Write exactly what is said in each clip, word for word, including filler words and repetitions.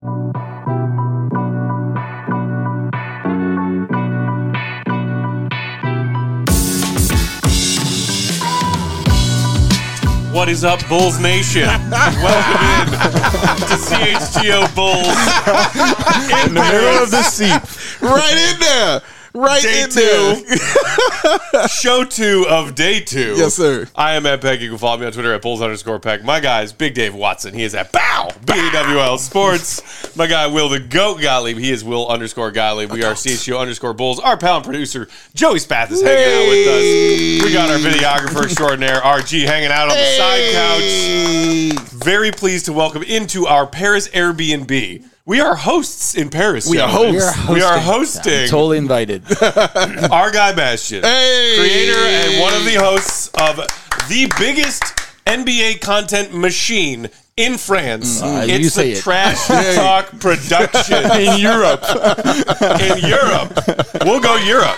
What is up, Bulls Nation? Welcome in to C H G O Bulls in, in the middle of the seat. Right in there. Right day in there. two. Show two of day two. Yes, sir. I am at Peck. You can follow me on Twitter at Bulls underscore Peck. My guy is Big Dave Watson. He is at Bow, B A W L Sports. My guy, Will the Goat Gottlieb. He is Will underscore Gottlieb. We are C H G O underscore Bulls. Our pal and producer, Joey Spath, is hanging out with us. We got our videographer extraordinaire, R G, hanging out on the side couch. Very pleased to welcome into our Paris Airbnb. We are hosts in Paris. We are hosts. We are hosting. I'm totally invited. Our guy Bastion, Hey. creator and one of the hosts of the biggest N B A content machine in France. Uh, you it's say the it. Trash Talk production In Europe. in Europe. We'll go Europe.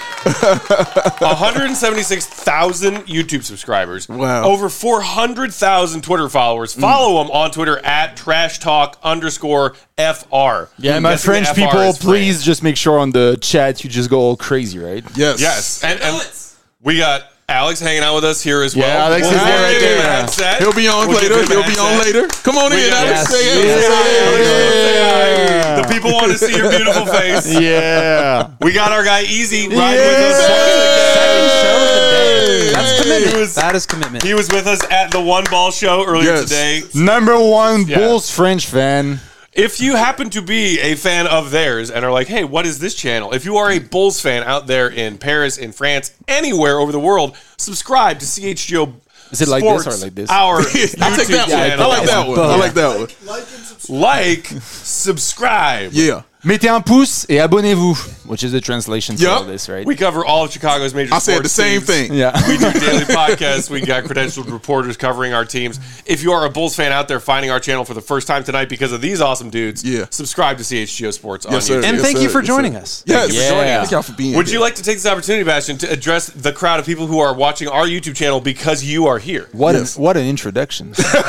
one hundred seventy-six thousand YouTube subscribers. Wow. Over four hundred thousand Twitter followers. Follow them on Twitter at Trash Talk underscore F R. Yeah, I'm my guessing the French F R people, is please France. just make sure on the chat you just go all crazy, right? Yes. Yes. And, and we got Alex hanging out with us here as well. Yeah, Alex We'll is there give right him there. a headset. He'll be on We'll give later. him a He'll be on headset. later. Come on We in, got- Alex. Yes. Say it. Yes. Say it. Yeah. The people want to see your beautiful face. Yeah. We got our guy Easy riding Yeah. with us Second once show of the day. Hey. That's commitment. He was- that is commitment. again. He was with us at the One Ball Show earlier Yes. today. Number one Yeah. Bulls French fan. If you happen to be a fan of theirs and are like, hey, what is this channel? If you are a Bulls fan out there in Paris, in France, anywhere over the world, subscribe to C H G O Is it like Sports, this or like this? Our I'll take YouTube that one. channel. I like that one. I like that one. Like, subscribe. Yeah. Mettez un pouce et abonnez-vous, which is the translation for Yep. all this, right? We cover all of Chicago's major I sports said the same teams. thing. Yeah. We do daily podcasts. We got credentialed reporters covering our teams. If you are a Bulls fan out there finding our channel for the first time tonight because of these awesome dudes, Yeah. subscribe to C H G O Sports on Yes, sir. YouTube. and Yes, thank sir. you for Yes, joining sir. us. Yes. you for joining us. Thank y'all for being Would here. you like to take this opportunity, Bastion, to address the crowd of people who are watching our YouTube channel because you are here? What Yes. an what an introduction!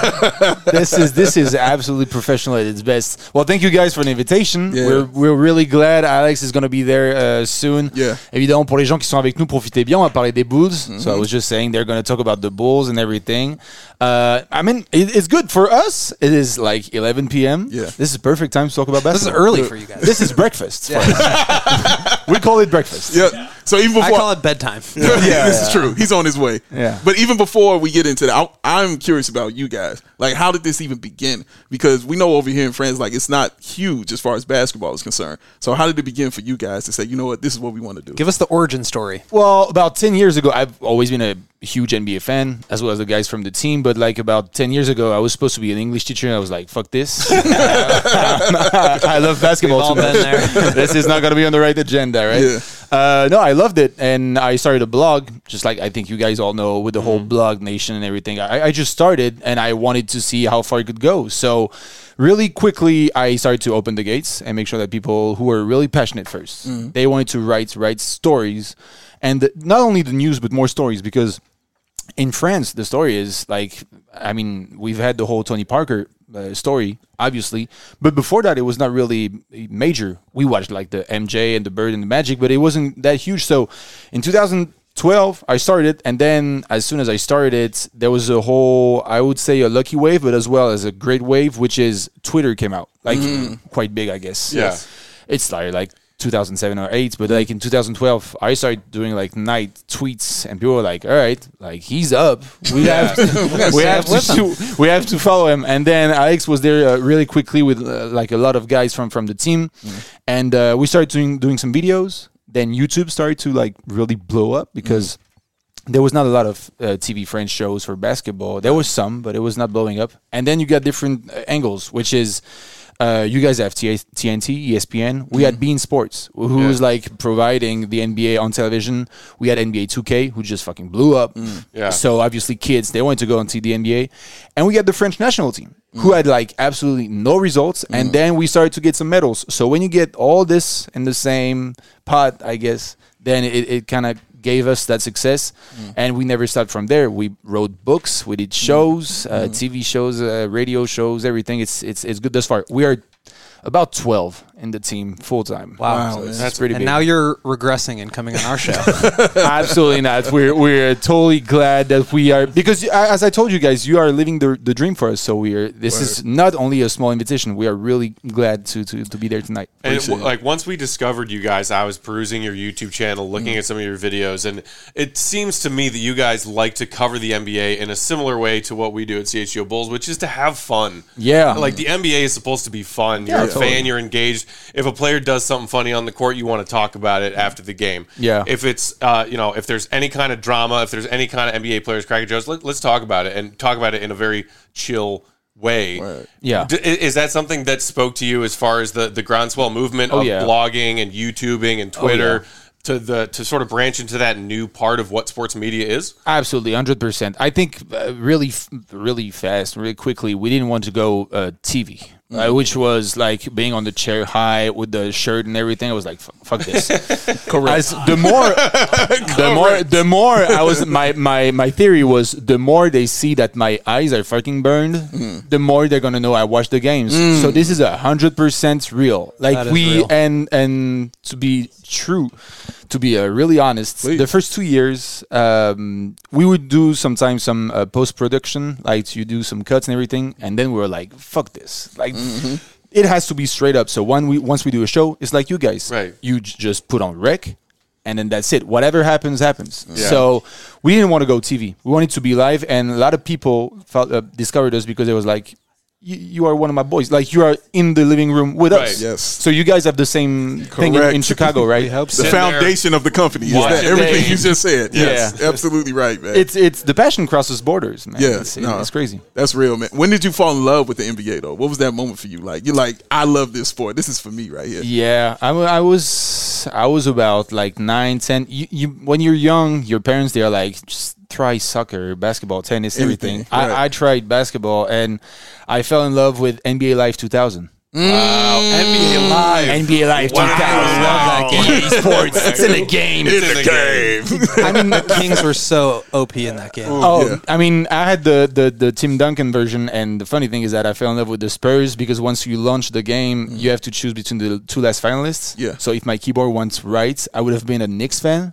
this is this is absolutely professional at its best. Well, thank you guys for the invitation. Yeah. We're we're really glad Alex is going to be there uh, soon. Yeah. Évidemment, pour les gens qui sont avec nous, profitez bien. On va parler des Bulls. So I was just saying they're going to talk about the Bulls and everything. Uh, I mean, it, it's good for us. It is like eleven p.m. Yeah. This is perfect time to talk about This is basketball. early for you guys. This is breakfast. for us. We call it breakfast. Yeah. So even I before call it bedtime. yeah, this is true. He's on his way. Yeah. But even before we get into that, I, I'm curious about you guys. Like, how did this even begin? Because we know over here in France, like, it's not huge as far as basketball is concerned. So how did it begin for you guys to say, you know what, this is what we want to do? Give us the origin story. Well, about ten years ago, I've always been a huge N B A fan, as well as the guys from the team. But like about ten years ago, I was supposed to be an English teacher, and I was like, fuck this. I love basketball We've all too much. been there. This is not going to be on the right agenda, right? Yeah. Uh, no, I loved it. And I started a blog, just like I think you guys all know, with the whole blog nation and everything. I, I just started, and I wanted to see how far it could go. So really quickly, I started to open the gates and make sure that people who were really passionate 1st they wanted to write write stories. And the, not only the news, but more stories, because in France, the story is like, I mean, we've had the whole Tony Parker uh, story, obviously, but before that, it was not really major. We watched like the M J and the Bird and the Magic, but it wasn't that huge. So in two thousand twelve, I started, and then as soon as I started it, there was a whole, I would say, a lucky wave, but as well as a great wave, which is Twitter came out, like quite big, I guess. Yeah. It started like two thousand seven or eight, but like in two thousand twelve, I started doing like night tweets, and people were like, "All right, like he's up. We have to, we have to, we have to follow him." And then Alex was there uh, really quickly with uh, like a lot of guys from from the team, and uh, we started doing doing some videos. Then YouTube started to like really blow up because there was not a lot of uh, T V French shows for basketball. There was some, but it was not blowing up. And then you got different uh, angles, which is uh, you guys have T N T, E S P N. We had Bein Sports, who Yeah. was like providing the N B A on television. We had N B A two K, who just fucking blew up. Yeah. So obviously kids, they wanted to go and see the N B A. And we had the French national team, who had like absolutely no results. And then we started to get some medals. So when you get all this in the same pot, I guess, then it, it kind of gave us that success, mm. and we never stopped from there. We wrote books, we did shows, uh, mm. T V shows, uh, radio shows, everything. It's it's it's good thus far. We are about twelve in the team full time. Wow. So it's, man. it's pretty And big. now you're regressing and coming on our show. Absolutely not. We're we're totally glad that we are, because uh, as I told you guys, you are living the the dream for us. So we are. This is not only a small invitation. We are really glad to to, to be there tonight. And it, Appreciate it. like once we discovered you guys, I was perusing your YouTube channel, looking at some of your videos, and it seems to me that you guys like to cover the N B A in a similar way to what we do at C H G O Bulls, which is to have fun. Yeah. Like the N B A is supposed to be fun. You're Yeah, a totally. fan, you're engaged. If a player does something funny on the court, you want to talk about it after the game. Yeah. If it's, uh, you know, if there's any kind of drama, if there's any kind of N B A players cracking jokes, let, let's talk about it and talk about it in a very chill way. Right. Yeah. D- is that something that spoke to you as far as the, the groundswell movement Oh, of yeah. blogging and YouTubing and Twitter yeah. to the to sort of branch into that new part of what sports media is? Absolutely, one hundred percent. I think uh, really, f- really fast, really quickly, we didn't want to go uh, T V, uh, which was like being on the chair high with the shirt and everything. I was like, "F- fuck this. Correct. As the more, the more, the more I was, my, my, my theory was the more they see that my eyes are fucking burned, the more they're gonna know I watched the games. So this is a hundred percent real. Like That is we, real. and, and to be true, to be uh, really honest, Please. the first two years, um, we would do sometimes some uh, post production, like you do some cuts and everything, and then we were like, "Fuck this!" Like, it has to be straight up. So when we once we do a show, it's like you guys, Right. You j- just put on rec, and then that's it. Whatever happens, happens. Yeah. So we didn't want to go T V. We wanted to be live, and a lot of people felt, uh, discovered us because it was like, you, you are one of my boys. Like you are in the living room with Right. us. Yes. So you guys have the same thing in, Correct. in Chicago, right? hope The Sitting there, foundation of the company is watching that everything games. you just said. Yes, Yeah. absolutely right, man. It's it's the passion crosses borders, man. Yeah, it's, no. it's crazy. That's real, man. When did you fall in love with the N B A though? What was that moment for you? Like you're like, I love this sport. This is for me right here. Yeah, I, wa- I was I was about like nine, ten. You, you when you're young, your parents they are like, just try soccer, basketball, tennis, everything. Everything, right. I, I tried basketball and I fell in love with N B A Live two thousand. Wow. N B A Live. N B A Live Wow. two thousand. Wow. Sports. It's in the game. It's in the game. I mean, the Kings were so O P in that game. Oh, Yeah. I mean, I had the, the, the Tim Duncan version, and the funny thing is that I fell in love with the Spurs because once you launch the game, you have to choose between the two last finalists. Yeah. So if my keyboard went right, I would have been a Knicks fan.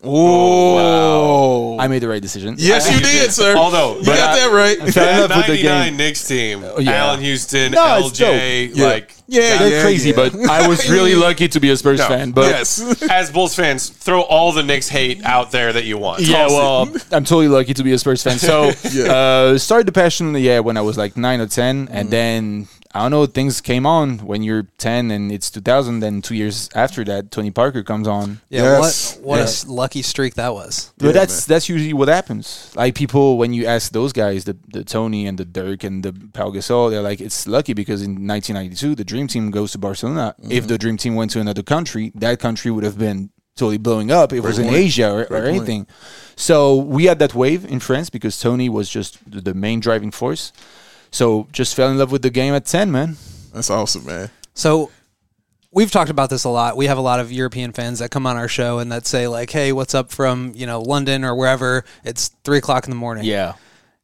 Oh, I made the right decision. yes, you did, sir. Although, you but got I- that right. I fell in That love with the ninety-nine game. Knicks team, yeah. Allen Houston, No, it's L J, dope. Yeah. like Yeah, They're yeah, crazy, yeah. but I was really lucky to be a Spurs No. fan. But yes, as Bulls fans, throw all the Knicks hate out there that you want. yeah, Toss it. well, I'm totally lucky to be a Spurs fan. So, Yeah. uh, started the passion, yeah, when I was like nine or ten, Mm-hmm. and then I don't know, things came on when you're ten and it's two thousand. Then two years after that, Tony Parker comes on. Yeah, Yes. what what Yeah. a s- lucky streak that was. But Yeah, that's that's usually what happens. Like people, when you ask those guys, the the Tony and the Dirk and the Pau Gasol, they're like, it's lucky because in nineteen ninety-two, the Dream Team goes to Barcelona. Mm-hmm. If the Dream Team went to another country, that country would have been totally blowing up. If it was in point. Asia or, or Great point. anything. So we had that wave in France because Tony was just the, the main driving force. So just fell in love with the game at ten, man. that's awesome, man. So we've talked about this a lot. We have a lot of European fans that come on our show and that say like, "Hey, what's up from you know London or wherever?" It's three o'clock in the morning. Yeah.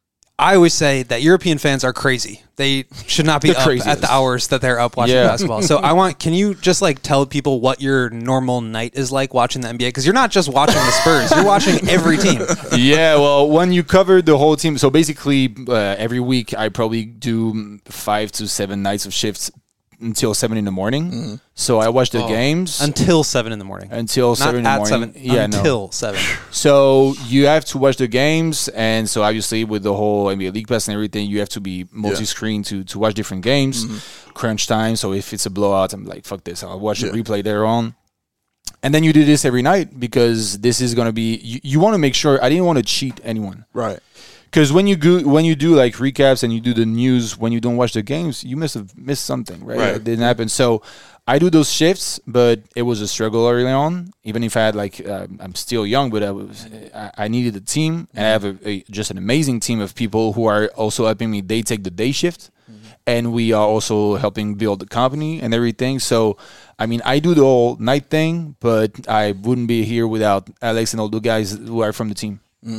I always say that European fans are crazy. They should not be The up craziest. at the hours that they're up watching Yeah. basketball. So I want, can you just like tell people what your normal night is like watching the N B A? Because you're not just watching the Spurs, you're watching every team. Yeah, well, when you cover the whole team, so basically uh, every week I probably do five to seven nights of shifts until seven in the morning. So I watch the games Until seven in the morning. until Not seven in the at morning. seven. Yeah, no. until seven. So you have to watch the games, and so obviously with the whole N B A League Pass and everything, you have to be multi-screen to to watch different games. Crunch time. So if it's a blowout, I'm like, fuck this. I'll watch Yeah. the replay later on. And then you do this every night because this is gonna be. You, you want to make sure. I didn't want to cheat anyone. Right. Because when you go, when you do like recaps and you do the news when you don't watch the games, you must have missed something, right? Right. It didn't happen. So I do those shifts, but it was a struggle early on. Even if I had like, uh, I'm still young, but I was, I, I needed a team, and I have a, a just an amazing team of people who are also helping me. They take the day shift, and we are also helping build the company and everything. So. I mean, I do the whole night thing, but I wouldn't be here without Alex and all the guys who are from the team.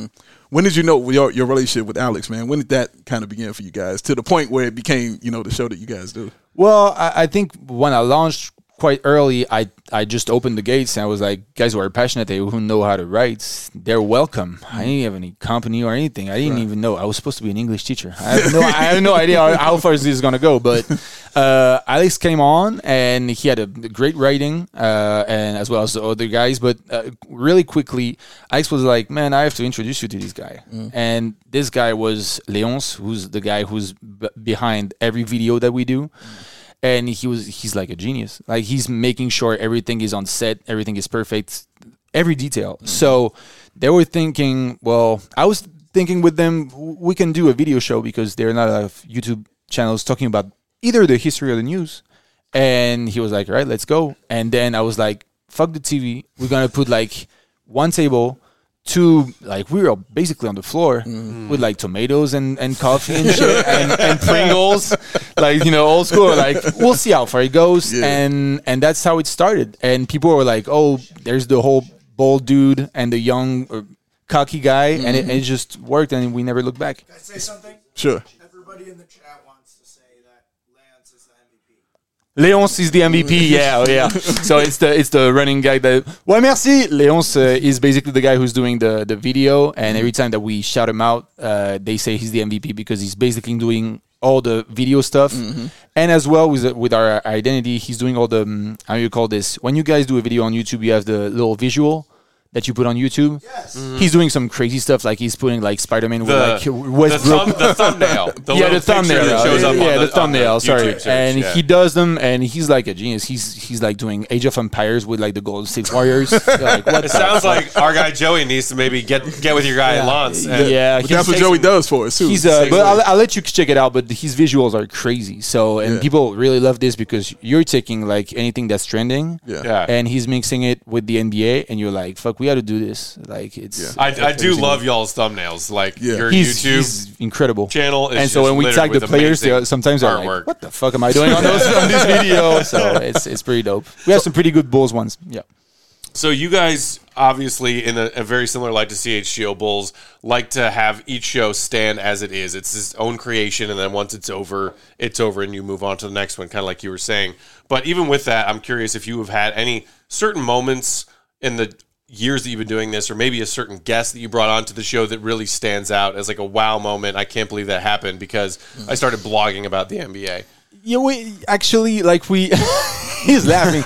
when did you know your your relationship with Alex, man? When did that kind of begin for you guys to the point where it became, you know, the show that you guys do? Well, I, I think when I launched quite early, I, I just opened the gates and I was like, guys who are passionate, they who know how to write, they're welcome. I didn't have any company or anything. I didn't right. even know. I was supposed to be an English teacher. I have no, I have no idea how, how far this is going to go. But uh, Alex came on and he had a great writing uh, and as well as the other guys. But uh, really quickly, Alex was like, man, I have to introduce you to this guy. Mm. And this guy was Léonce, who's the guy who's b- behind every video that we do. Mm. And he was he's like a genius. Like he's making sure everything is on set, everything is perfect, every detail. Mm-hmm. So they were thinking, well, I was thinking with them, we can do a video show because there are not a lot of YouTube channels talking about either the history or the news. And he was like, all right, let's go. And then I was like, fuck the T V. We're going to put like one table, two, like we were basically on the floor mm. with like tomatoes and, and coffee and shit and, and Pringles, like, you know, old school. Like, we'll see how far it goes. Yeah. And and that's how it started. And people were like, oh, there's the whole bold dude and the young uh, cocky guy. Mm-hmm. And, it, and it just worked and we never looked back. Can I say something? Sure. Everybody in the chat wants to say that Lance is the M V P. Léonce is the M V P, yeah, yeah. So it's the it's the running guy that. Ouais, merci. Léonce uh, is basically the guy who's doing the, the video, and every time that we shout him out, uh, they say he's the M V P because he's basically doing all the video stuff, mm-hmm. and as well with with our identity, he's doing all the um, how do you call this? When you guys do a video on YouTube, you have the little visual that you put on YouTube. Yes. Mm-hmm. He's doing some crazy stuff, like he's putting like Spider-Man the, with like Westbrook. The, thumb, the thumbnail. The yeah, the thumbnail. That shows up yeah, on the, the thumbnail. on the sorry, search, and yeah. he does them, and he's like a genius. He's he's like doing Age of Empires with like the Golden State Warriors. Like, what it sounds like our guy Joey needs to maybe get get with your guy yeah. Lance. And yeah, but that's what Joey does for us too. He's uh, but I'll, I'll let you check it out. But his visuals are crazy. So and yeah. people really love this because you're taking like anything that's trending, yeah. yeah. and he's mixing it with the N B A, and you're like, fuck, we got to do this. Like it's. Yeah. I, I do love y'all's thumbnails. Like yeah. your he's, YouTube he's incredible channel is and so when we tag the players, they, sometimes they're like, "What the fuck am I doing on those on this video?" So it's it's pretty dope. We have some pretty good Bulls ones. Yeah. So you guys, obviously, in a, a very similar light to C H G O Bulls, like to have each show stand as it is. It's its own creation, and then once it's over, it's over, and you move on to the next one, kind of like you were saying. But even with that, I'm curious if you have had any certain moments in the years that you've been doing this, or maybe a certain guest that you brought onto the show that really stands out as like a wow moment. I can't believe that happened because I started blogging about the N B A. Yeah, we actually like we. He's laughing.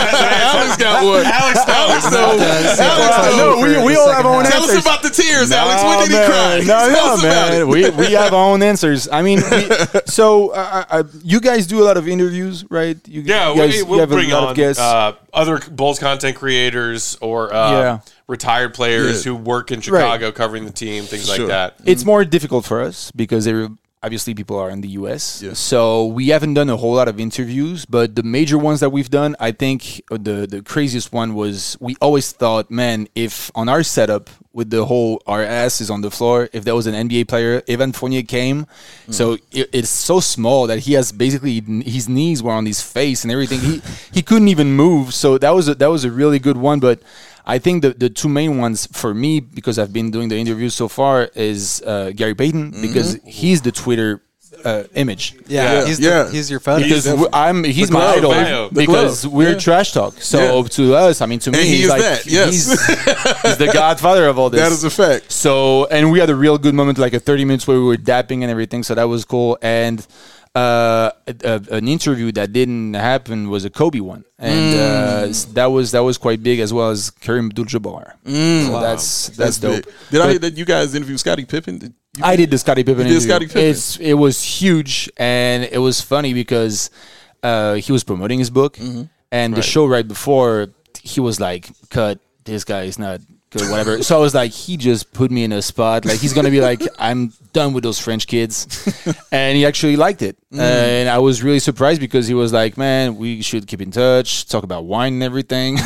Alex got one. Alex knows. Alex knows. No, we, we all have our own Tell answers. us about the tears, No, Alex. When did man. he cry? No, Tell no, us about man. it. We we have our own answers. I mean, we, so uh, uh, you guys do a lot of interviews, right? You, Yeah, you guys, we, you we'll have bring a lot on of guests. uh, other Bulls content creators or uh, Yeah. retired players Yeah. who work in Chicago covering the team, things Sure. like that. It's more difficult for us because there, obviously people are in the U S. Yeah. So we haven't done a whole lot of interviews, but the major ones that we've done, I think the the craziest one was we always thought, man, if on our setup with the whole our ass is on the floor, if there was an N B A player, Evan Fournier came. Mm. So it, it's so small that he has basically his knees were on his face and everything. he he couldn't even move. So that was a, that was a really good one, but I think the, the two main ones for me, because I've been doing the interviews so far, is uh, Gary Payton, mm-hmm. because he's the Twitter uh, image. Yeah, Yeah. he's Yeah. the, he's your photo. Because w- I'm he's The my glove, idol man. The because glove. we're Yeah. trash talk. So Yeah. to us, I mean, to me, And he he's is like that, yes. he's, he's the godfather of all this. That is a fact. So, and we had a real good moment, like a thirty minutes where we were dapping and everything. So that was cool. And uh, a, a, an interview that didn't happen was a Kobe one, and Mm. uh, s- that was that was quite big, as well as Kareem Abdul-Jabbar. So Wow. that's that's, dope. big. Did I But- hear that you guys interviewed Scottie Pippen? Did you- I did the Scottie Pippen You did interview. Scottie Pippen. It's it was huge, and it was funny because uh, he was promoting his book, and the Right. show right before he was like, "Cut, this guy is not good, whatever." So I was like, he just put me in a spot. Like he's gonna be like, "I'm done with those French kids," and he actually liked it, and I was really surprised because he was like, "Man, we should keep in touch, talk about wine and everything."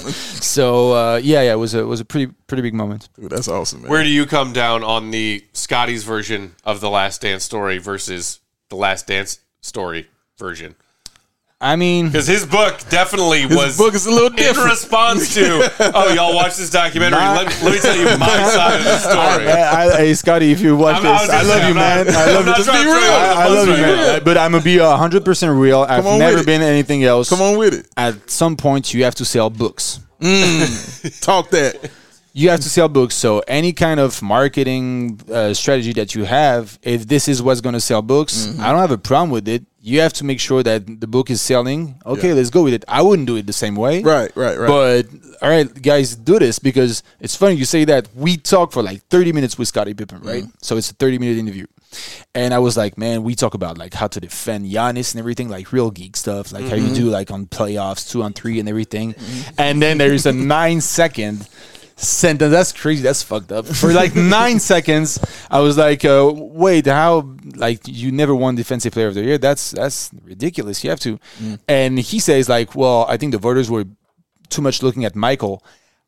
So uh, yeah, yeah, it was a it was a pretty pretty big moment. Dude, that's awesome, man. Where do you come down on the Scotty's version of the Last Dance story versus the Last Dance story version? I mean, Because his book definitely His was book is a little in different. response to, oh, y'all watch this documentary. My- let, me, let me tell you my side of the story. I, I, hey Scotty, if you watch I'm- I was this, I gonna love say, you, I'm man. not- I I'm love you. not Just trying be to real. throw you under the I, I bus love you, right man. now. But I'm gonna be one hundred percent real. I've Come on never with it. been anything else. Come on with it. At some point, you have to sell books. Talk that. You have to sell books. So any kind of marketing uh, strategy that you have, if this is what's going to sell books, Mm-hmm. I don't have a problem with it. You have to make sure that the book is selling. Okay, Yeah. let's go with it. I wouldn't do it the same way. Right, right, right. But all right, guys, do this because it's funny you say that. We talked for like thirty minutes with Scottie Pippen, right? Mm-hmm. So it's a thirty minute interview. And I was like, man, we talk about like how to defend Giannis and everything, like real geek stuff, like how you do like on playoffs, two on three and everything. And then there is a nine second sentence. That's crazy. That's fucked up. For like nine seconds, I was like, uh, wait, how? Like you never won Defensive Player of the Year? That's that's ridiculous. You have to. And he says like, well, I think the voters were too much looking at Michael.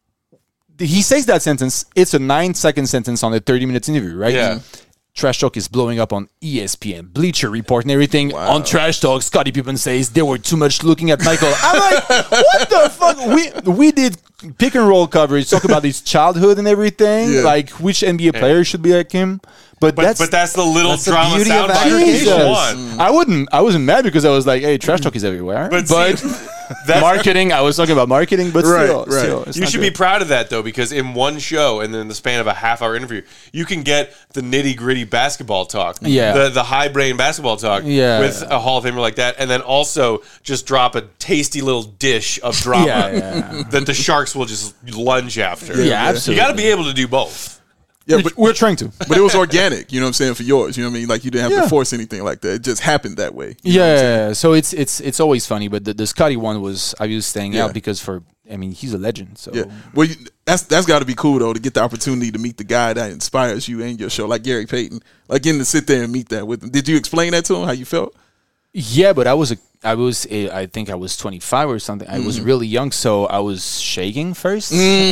He says that sentence. It's a nine second sentence on a thirty minutes interview, right? Yeah. Trash Talk is blowing up on E S P N, Bleacher Report, and everything. On Trash Talk, Scottie Pippen says they were too much looking at Michael. I'm like, what the fuck? We we did pick and roll coverage, talk about his childhood and everything, Yeah. like which N B A player should be like him. But, But that's but that's the little that's the drama beauty of soundbite aggregation. people Jesus. want. I wouldn't. I wasn't mad because I was like, "Hey, Trash Talk is everywhere." But But, see, that's- marketing. I was talking about marketing, but Right, still, right. still, it's You not should good. be proud of that though, because in one show and then the span of a half hour interview, you can get the nitty gritty basketball talk, Yeah. the the high brain basketball talk, Yeah. with a Hall of Famer like that, and then also just drop a tasty little dish of drama Yeah, yeah. that the Sharks will just lunge after. Yeah, absolutely. You got to be able to do both. Yeah, but We're trying to. but it was organic. You know what I'm saying for yours. You know what I mean? Like you didn't have Yeah. to force anything like that. It just happened that way. You know what I'm saying? Yeah, so it's it's it's always funny, but the, the Scotty one was I was staying Yeah. out because for I mean he's a legend. So Yeah. Well, you, that's that's got to be cool though to get the opportunity to meet the guy that inspires you and your show, like Gary Payton. Like getting to sit there and meet that with him. Did you explain that to him? How you felt? yeah, but I was a I was a, I think I was twenty-five or something. I was really young, so I was shaking first. Uh,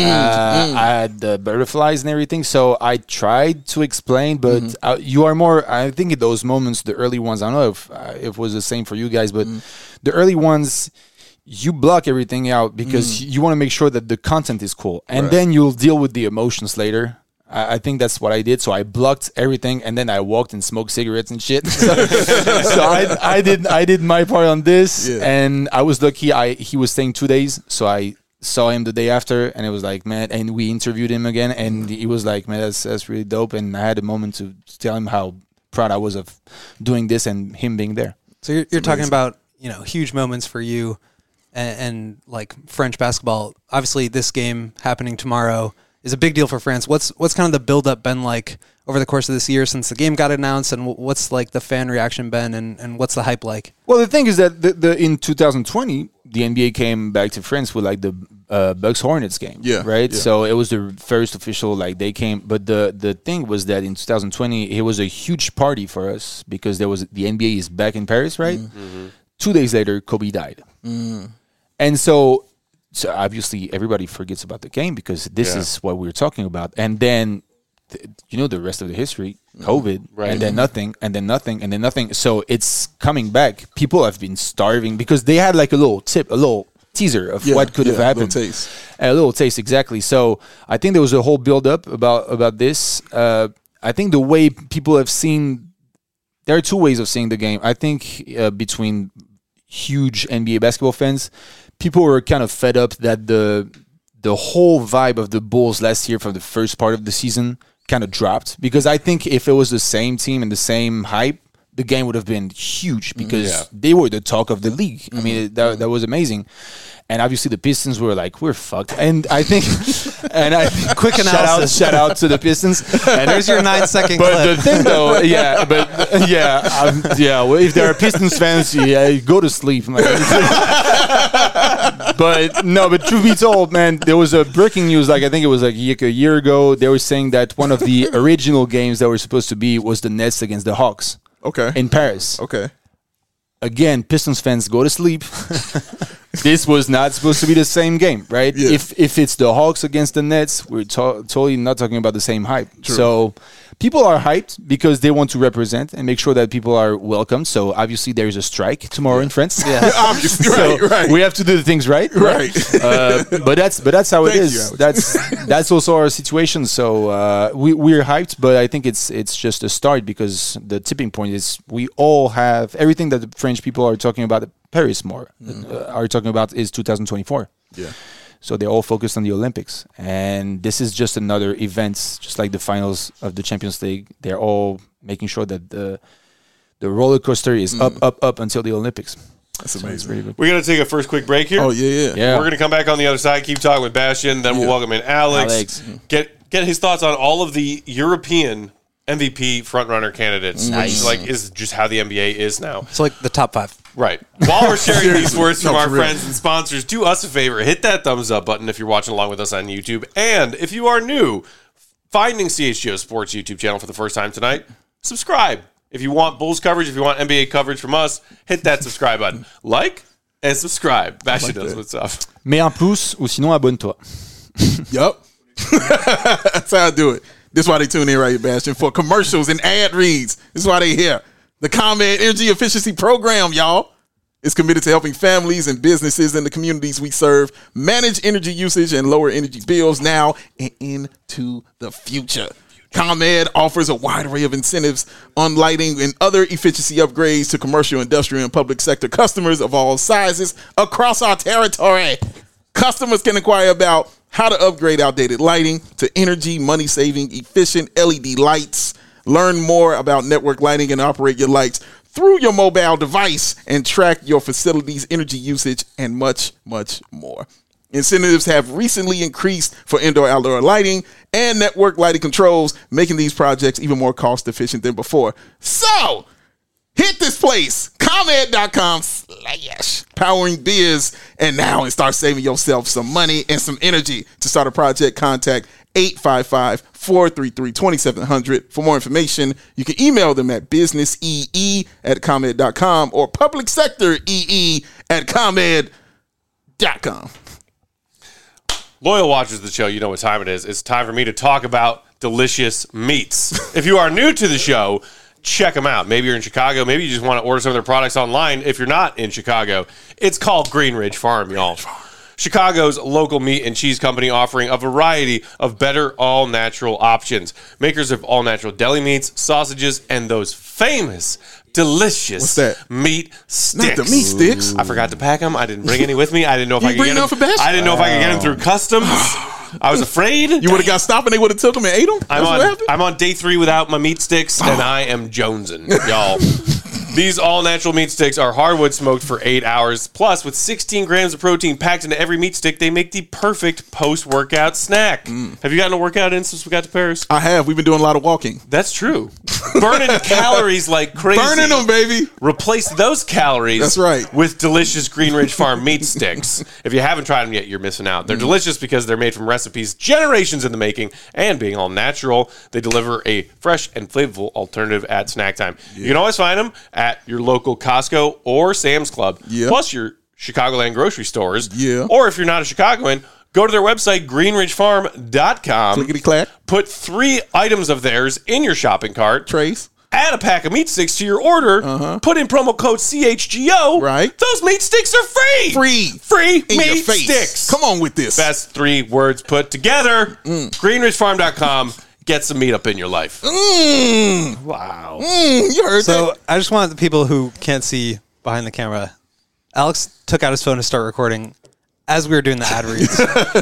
I had the butterflies and everything, so I tried to explain, but uh, you are more. I think in those moments, the early ones. I don't know if uh, if it was the same for you guys, but the early ones. You block everything out because you want to make sure that the content is cool, and Right. then you'll deal with the emotions later. I, I think that's what I did. So I blocked everything, and then I walked and smoked cigarettes and shit. so so I, I did I did my part on this, Yeah. and I was lucky. I he was staying two days, so I saw him the day after, and it was like, man. And we interviewed him again, and he was like, man, that's that's really dope. And I had a moment to tell him how proud I was of doing this and him being there. So you're, you're talking about, you know, huge moments for you and, and like French basketball. Obviously, this game happening tomorrow is a big deal for France. What's what's kind of the build-up been like over the course of this year since the game got announced, and wh- what's like the fan reaction been, and, and what's the hype like? Well, the thing is that the, the in two thousand twenty, the N B A came back to France with like the uh, Bucks Hornets game, Yeah, right. yeah. So it was the first official like they came, but the the thing was that in two thousand twenty it was a huge party for us because there was the N B A is back in Paris, right? Mm-hmm. Two days later, Kobe died, and so so obviously everybody forgets about the game because this Yeah. is what we we're talking about, and then th- you know the rest of the history, COVID, Right. and then nothing, and then nothing, and then nothing. So it's coming back. People have been starving because they had like a little tip, a little teaser of Yeah, what could yeah, have happened. little taste. A little taste, exactly. So I think there was a whole build up about about this. Uh, I think the way people have seen, there are two ways of seeing the game. I think uh, between huge N B A basketball fans, people were kind of fed up that the the whole vibe of the Bulls last year from the first part of the season kind of dropped, because I think if it was the same team and the same hype, the game would have been huge because Yeah. they were the talk of the league. I mean, that, that was amazing. And obviously the Pistons were like, we're fucked. And I think, and I Quick shout out, analysis. shout out to the Pistons. And There's your nine second but clip. the thing though, yeah, but yeah, um, yeah. Well, if there are Pistons fans, yeah, go to sleep. Like, but no, but truth be told, man, there was a breaking news. Like I think it was like a year ago. They were saying that one of the original games that were supposed to be was the Nets against the Hawks Okay. in Paris. Okay. Again, Pistons fans, go to sleep. This was not supposed to be the same game, right? Yeah. If if it's the Hawks against the Nets, we're to- totally not talking about the same hype. So, people are hyped because they want to represent and make sure that people are welcomed. So obviously there is a strike tomorrow in France. Yeah. Obviously, So right, right. we have to do the things right. Right. Uh, but that's but that's how it Thank is. you, Alex. That's that's also our situation. So uh, we we're hyped, but I think it's it's just a start because the tipping point is we all have everything that the French people are talking about at Paris more uh, are talking about is two thousand twenty-four. Yeah. So they're all focused on the Olympics, and this is just another event, just like the finals of the Champions League. They're all making sure that the the roller coaster is up, up, up until the Olympics. That's So it's amazing. really good. We're going to take a first quick break here. Oh, yeah, yeah. Yeah. We're going to come back on the other side, keep talking with Bastion, then we'll Yeah. welcome in Alex. Alex. Get get his thoughts on all of the European M V P frontrunner candidates, which is like is just how the N B A is now. It's like the top five. Right. While we're sharing these words from No, our for real. friends and sponsors, do us a favor. Hit that thumbs up button if you're watching along with us on YouTube. And if you are new, finding C H G O Sports YouTube channel for the first time tonight, subscribe. If you want Bulls coverage, if you want N B A coverage from us, hit that subscribe button. Like and subscribe. Bastion knows that. what's up. Mets un pouce ou sinon abonne-toi. Yup. That's how I do it. This is why they tune in right here, Bastion, for commercials and ad reads. This is why they here. The ComEd Energy Efficiency Program, y'all, is committed to helping families and businesses in the communities we serve manage energy usage and lower energy bills now and into the future. ComEd offers a wide array of incentives on lighting and other efficiency upgrades to commercial, industrial, and public sector customers of all sizes across our territory. Customers can inquire about how to upgrade outdated lighting to energy, money-saving, efficient L E D lights. Learn more about network lighting and operate your lights through your mobile device and track your facility's energy usage and much, much more. Incentives have recently increased for indoor-outdoor lighting and network lighting controls, making these projects even more cost-efficient than before. So, hit this place, ComEd.com slash powering biz, and now and start saving yourself some money and some energy. To start a project, contact eight five five, four three three, two seven zero zero. For more information, you can email them at businessee at ComEd.com or public sector ee at ComEd dot com. Loyal watchers of the show, you know what time it is. It's time for me to talk about delicious meats. If you are new to the show, check them out. Maybe you're in Chicago. Maybe you just want to order some of their products online. If you're not in Chicago, it's called Green Ridge Farm, y'all. Chicago's local meat and cheese company offering a variety of better all-natural options. Makers of all-natural deli meats, sausages, and those famous, delicious What's that? meat sticks. Not the meat sticks. I forgot to pack them. I didn't bring any with me. I didn't know if You I could bring get none them. for Bash? I didn't know if I could get them through customs. I was afraid. You would have got stopped and they would have took them and ate them? That's I'm what on, happened? I'm on day three without my meat sticks, and I am jonesing, y'all. These all-natural meat sticks are hardwood smoked for eight hours. Plus, with sixteen grams of protein packed into every meat stick, they make the perfect post-workout snack. Mm. Have you gotten a workout in since we got to Paris? I have. We've been doing a lot of walking. That's true. Burning calories like crazy. Burning them, baby. Replace those calories That's right. with delicious Green Ridge Farm meat sticks. If you haven't tried them yet, you're missing out. Mm. They're delicious because they're made from recipes generations in the making, and being all natural, they deliver a fresh and flavorful alternative at snack time. You can always find them at your local Costco or Sam's Club, Yeah. plus your Chicagoland grocery stores. Yeah. Or if you're not a Chicagoan, go to their website, green ridge farm dot com. Clickety clack. Put three items of theirs in your shopping cart. Trace. Add a pack of meat sticks to your order. Uh-huh. Put in promo code C H G O. Right. Those meat sticks are free. Free. Free In meat your face. sticks. Come on with this. Best three words put together. Mm. green ridge farm dot com. Get some meat up in your life. Mm, Wow. mm, you heard So that. I just want the people who can't see behind the camera. Alex took out his phone to start recording as we were doing the ad reads.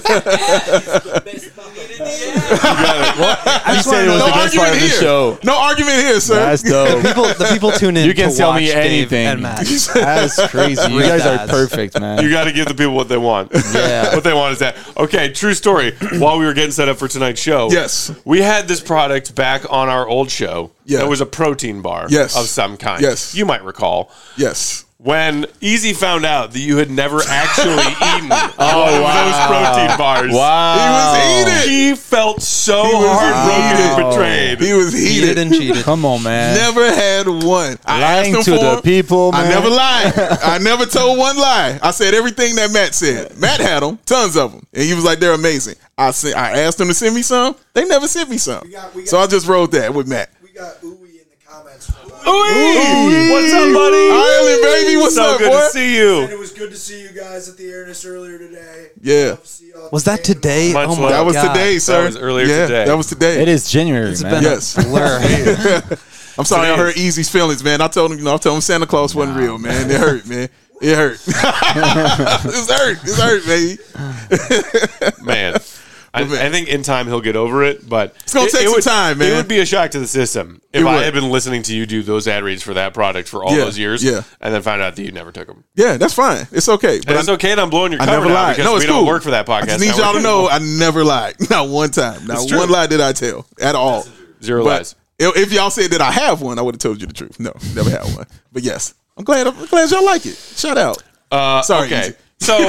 I just wanna know- it was No the best part argument of the here. show. No argument here, sir. That's dope. people, the people tune in. You can to tell watch me Dave anything. and Matt. That's crazy. You Read guys the are ads. perfect, man. You got to give the people what they want. Yeah. What they want is that. Okay, true story. While we were getting set up for tonight's show, Yes. we had this product back on our old show. Yeah. It was a protein bar Yes. of some kind. Yes. You might recall. Yes. When Easy found out that you had never actually eaten one of those protein bars. Wow. He was heated. He felt so He was heartbroken heated. and betrayed. He was Cheated heated. and cheated. Come on, man. Never had had one. I Lying asked him to for the him. people, I man. never lied. I never told one lie. I said everything that Matt said. Matt had them, tons of them, and he was like, "They're amazing." I sent, I asked them to send me some. They never sent me some. We got- we got- so I just wrote that with Matt. We got Ooey in the comments. For that. Ooh, what's up, buddy? Ireland, baby, what's so up, good boy? to see you. And it was good to see you guys at the airness earlier today. Yeah. Love to see y'all Was that today and today? Much Oh my love. That was God. today, sir. was earlier yeah, today. That was today. It is January, It's man. been Yes. a blur. I'm sorry, I Today hurt Easy's feelings, man. I told him, you know, I told him Santa Claus wasn't real, man. It hurt, man. It hurt. it's hurt. It's hurt, baby. Man. I, I think in time he'll get over it, but it's gonna take some time, man. It would be a shock to the system if It I would. had been listening to you do those ad reads for that product for all Yeah, those years, yeah. and then found out that you never took them. Yeah, that's fine. It's okay. But And it's I, okay that I'm blowing your I cover never now lied. because No, it's we cool. don't work for that podcast. I just need y'all to know I never lied. Not one time. Not It's true. one lie did I tell at all. Zero But lies. if if y'all said that I have one, I would have told you the truth. No, never had one. But yes, I'm glad. I'm glad y'all like it. Shout out. Uh, Sorry, okay. Easy. So,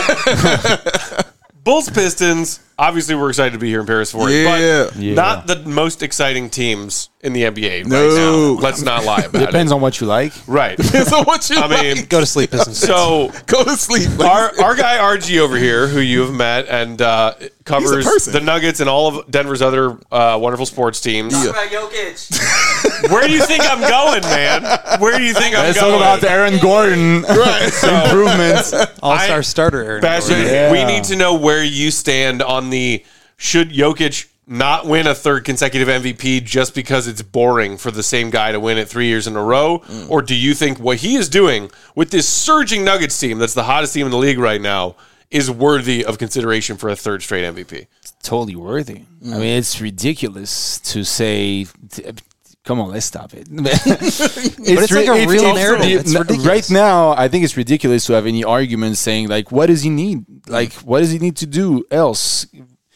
Bulls Pistons. Obviously, we're excited to be here in Paris for it, Yeah. but Yeah. not the most exciting teams in the N B A right No. now. Let's not lie about Depends it. on what you like. Right. So what you I mean, like? Go to sleep, Pistons. so Go to sleep. our our guy R G over here, who you have met and uh, covers person. the Nuggets and all of Denver's other uh, wonderful sports teams. Yeah. About Jokic. Where do you think I'm going, man? Where do you think I'm Let's going? talk about Aaron Gordon improvements. All-star I- starter Aaron Bastion, Gordon. Yeah. we need to know where you stand on the should Jokic not win a third consecutive M V P just because it's boring for the same guy to win it three years in a row? Mm. Or do you think what he is doing with this surging Nuggets team that's the hottest team in the league right now is worthy of consideration for a third straight M V P? Totally worthy. I mean, it's ridiculous to say. T- come on, let's stop it. it's it's like a real narrative. It's n- ridiculous. Right now, I think it's ridiculous to have any argument saying like, what does he need? Like, what does he need to do else?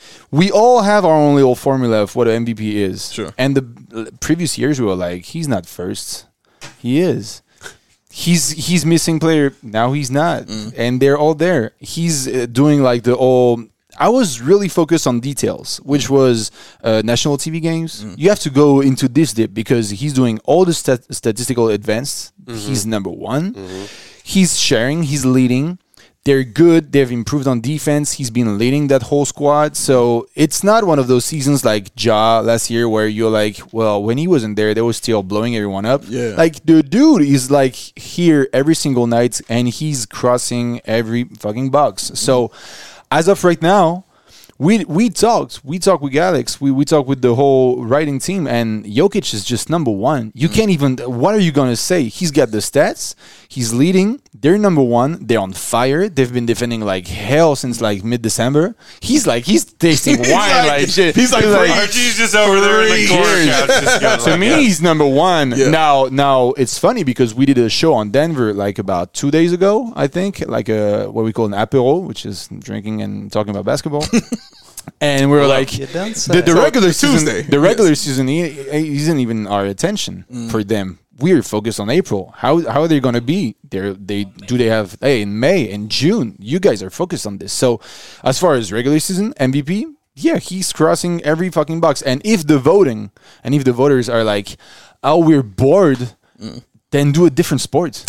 We all have our own little formula of what an M V P is. Sure. And the previous years we were like, he's not first. He is. He's he's missing player. Now he's not. And they're all there. He's uh, doing like the all. I was really focused on details, which was uh, national T V games. You have to go into this dip because he's doing all the stat- statistical advanced. He's number one. He's sharing. He's leading. They're good. They've improved on defense. He's been leading that whole squad. So it's not one of those seasons like Ja last year where you're like, well, when he wasn't there, they were still blowing everyone up. Yeah. Like the dude is like here every single night and he's crossing every fucking box. So as of right now, we we talked. We talked with Alex. We we talked with the whole writing team, and Jokic is just number one. You can't even. What are you gonna say? He's got the stats. He's leading. They're number one. They're on fire. They've been defending like hell since like mid December. He's like he's tasting wine like- like, shit. he's like, R G's just over there in the Three corner years. couch. Just going To like me, that. he's number one. Yeah. Now, now it's funny because we did a show on Denver like about two days ago, I think, like a what we call an apéro, which is drinking and talking about basketball. And we were like, You don't say. the, the So, regular Tuesday, season, the regular yes. season, he, he isn't even our attention for them. We're focused on April. How how are they going to be? They they do they have hey in May and June? You guys are focused on this. So, as far as regular season M V P, yeah, he's crossing every fucking box. And if the voting and if the voters are like, oh, we're bored. Then do a different sport.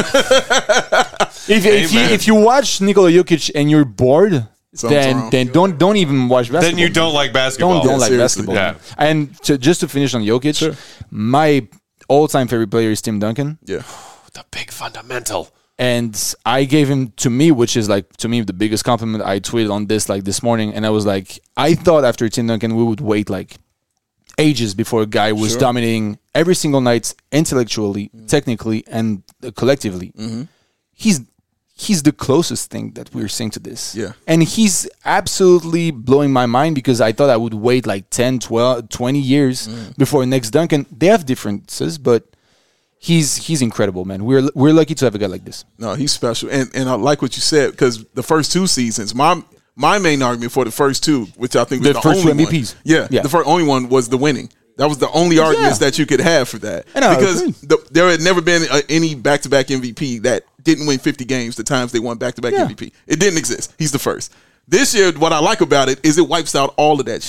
if if you, Amen. if you watch Nikola Jokic and you're bored, Something's then wrong. then don't don't even watch basketball. Then you don't like basketball. don't don't like seriously. basketball. Yeah. And to, just to finish on Jokic, my all-time favorite player is Tim Duncan, Yeah. The big fundamental. and I gave him to me, which is like to me the biggest compliment. I tweeted on this like this morning, and I was like, I thought after Tim Duncan we would wait like ages before a guy was Sure. dominating every single night intellectually, technically, and uh, collectively. He's he's the closest thing that we're seeing to this. Yeah. And he's absolutely blowing my mind because I thought I would wait like ten, twelve, twenty years before next Duncan. They have differences, but he's he's incredible, man. We're we're lucky to have a guy like this. No, he's special, and and I like what you said because the first two seasons, my my main argument for the first two, which I think was The the, first two only M V Ps. one, yeah, Yeah. the first only one was the winning. That was the only arguments that you could have for that And I because agree. the, there had never been uh any back to back M V P that didn't win fifty games. The times they won back to back Yeah. M V P, it didn't exist. He's the first. This year, what I like about it is it wipes out all of that shit.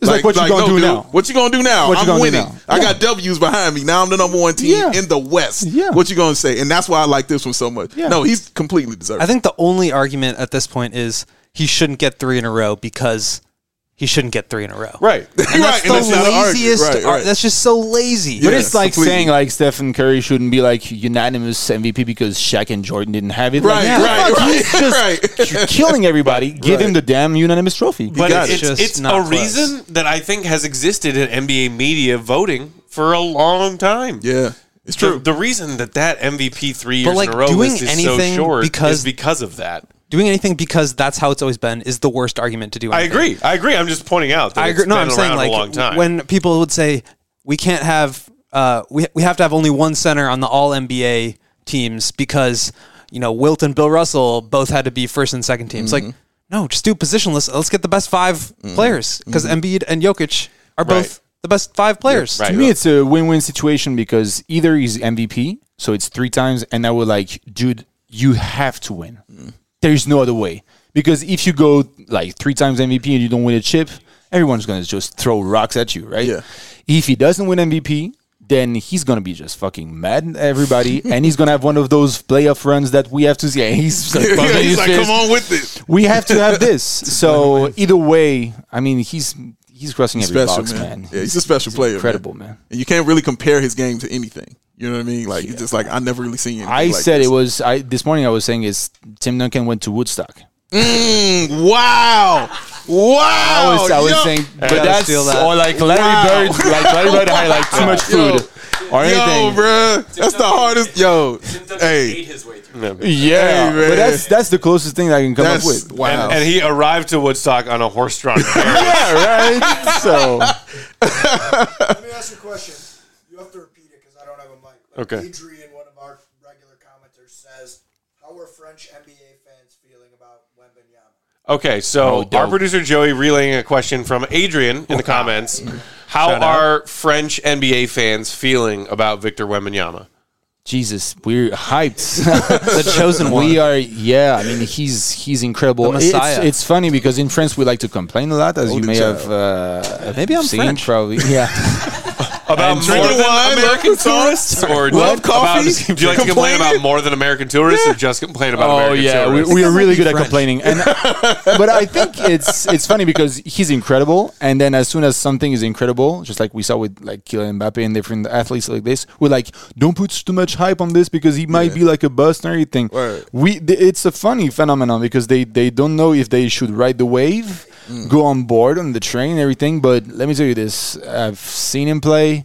It's like, what you gonna do dude, now? What you gonna do now? What you I'm gonna do winning. now? I Yeah. got W's behind me. Now I'm the number one team Yeah. in the West. Yeah. What you gonna say? And that's why I like this one so much. Yeah. No, he's completely deserved. I think the only argument at this point is he shouldn't get three in a row because he shouldn't get three in a row. Right. And that's Right, and the that's not an argument. laziest. Right, ar- right. That's just so lazy. But Yeah, it's like completely. saying like Stephen Curry shouldn't be like unanimous M V P because Shaq and Jordan didn't have it. Right, like, right, fuck, right, he's just right. killing everybody. Give Right. him the damn unanimous trophy. But got it's, it. Just it's not a close. reason that I think has existed in N B A media voting for a long time. yeah, it's The, true. the reason that that M V P three years But, like, in a row doing list is anything so short because- is because of that. Doing anything because that's how it's always been is the worst argument to do. I anything. agree. I agree. I'm just pointing out that I agree. it's No, been I'm around saying for like a long time. when people would say we can't have uh, we we have to have only one center on the All N B A teams because you know Wilt and Bill Russell both had to be first and second teams. Mm-hmm. Like no, just do positionless. Let's get the best five players because Embiid and Jokic are both Right. the best five players. right. To me, it's a win-win situation because either he's M V P, so it's three times, and I would like, dude, you have to win. There's no other way. Because if you go like three times M V P and you don't win a chip, everyone's gonna just throw rocks at you, right? Yeah. If he doesn't win M V P, then he's gonna be just fucking mad at everybody, and he's gonna have one of those playoff runs that we have to see. And he's like, Yeah, bumping he's his like, fist. come on with it. We have to have this. So either way, I mean, he's he's crossing every Special, box, man. man. Yeah, he's a special player. incredible, man. And you can't really compare his game to anything. You know what I mean? Like he's just like I never really seen. anything I like said this. it was. I this morning I was saying is Tim Duncan went to Woodstock. Mm, wow, wow. I was, I was yo, saying, but gotta that's steal that. or like Larry Wow. Bird, like Larry Bird had like too much Yo. food or yo, anything. bro. That's the hardest. Yo, hey, his way through. Yeah, Hey, man. but that's that's the closest thing I can come that's up with. wow. and, and he arrived to Woodstock on a horse-drawn carriage. Yeah, right. So Let me ask you a question. You have to repeat it because I don't have a mic. Like Okay. Adrian, one of our regular commenters, says, "How are French N B A fans feeling about Wembanyama?" Okay, so Oh, dope. our producer Joey relaying a question from Adrian in the comments. How Shout out. are French N B A fans feeling about Victor Wembanyama? Jesus, we're hyped. The chosen one. We are, yeah. I mean, he's he's incredible. The It's, Messiah. it's funny because in France we like to complain a lot, as you Golden may child. have uh, Maybe I'm seen. French. Probably, yeah. About more drinking than wine, American love tourists, or Love about- coffee? do you like to complain Complaining? about more than American tourists, or just complain about Oh American yeah, we, tourists? we are might really be good at French. complaining, and but I think it's it's funny because he's incredible, and then as soon as something is incredible, just like we saw with like Kylian Mbappe and different athletes like this, we're like, don't put too much hype on this because he might Yeah. be like a bust and everything. Right. We th- it's a funny phenomenon because they they don't know if they should ride the wave, go on board on the train, and everything. But let me tell you this: I've seen him play.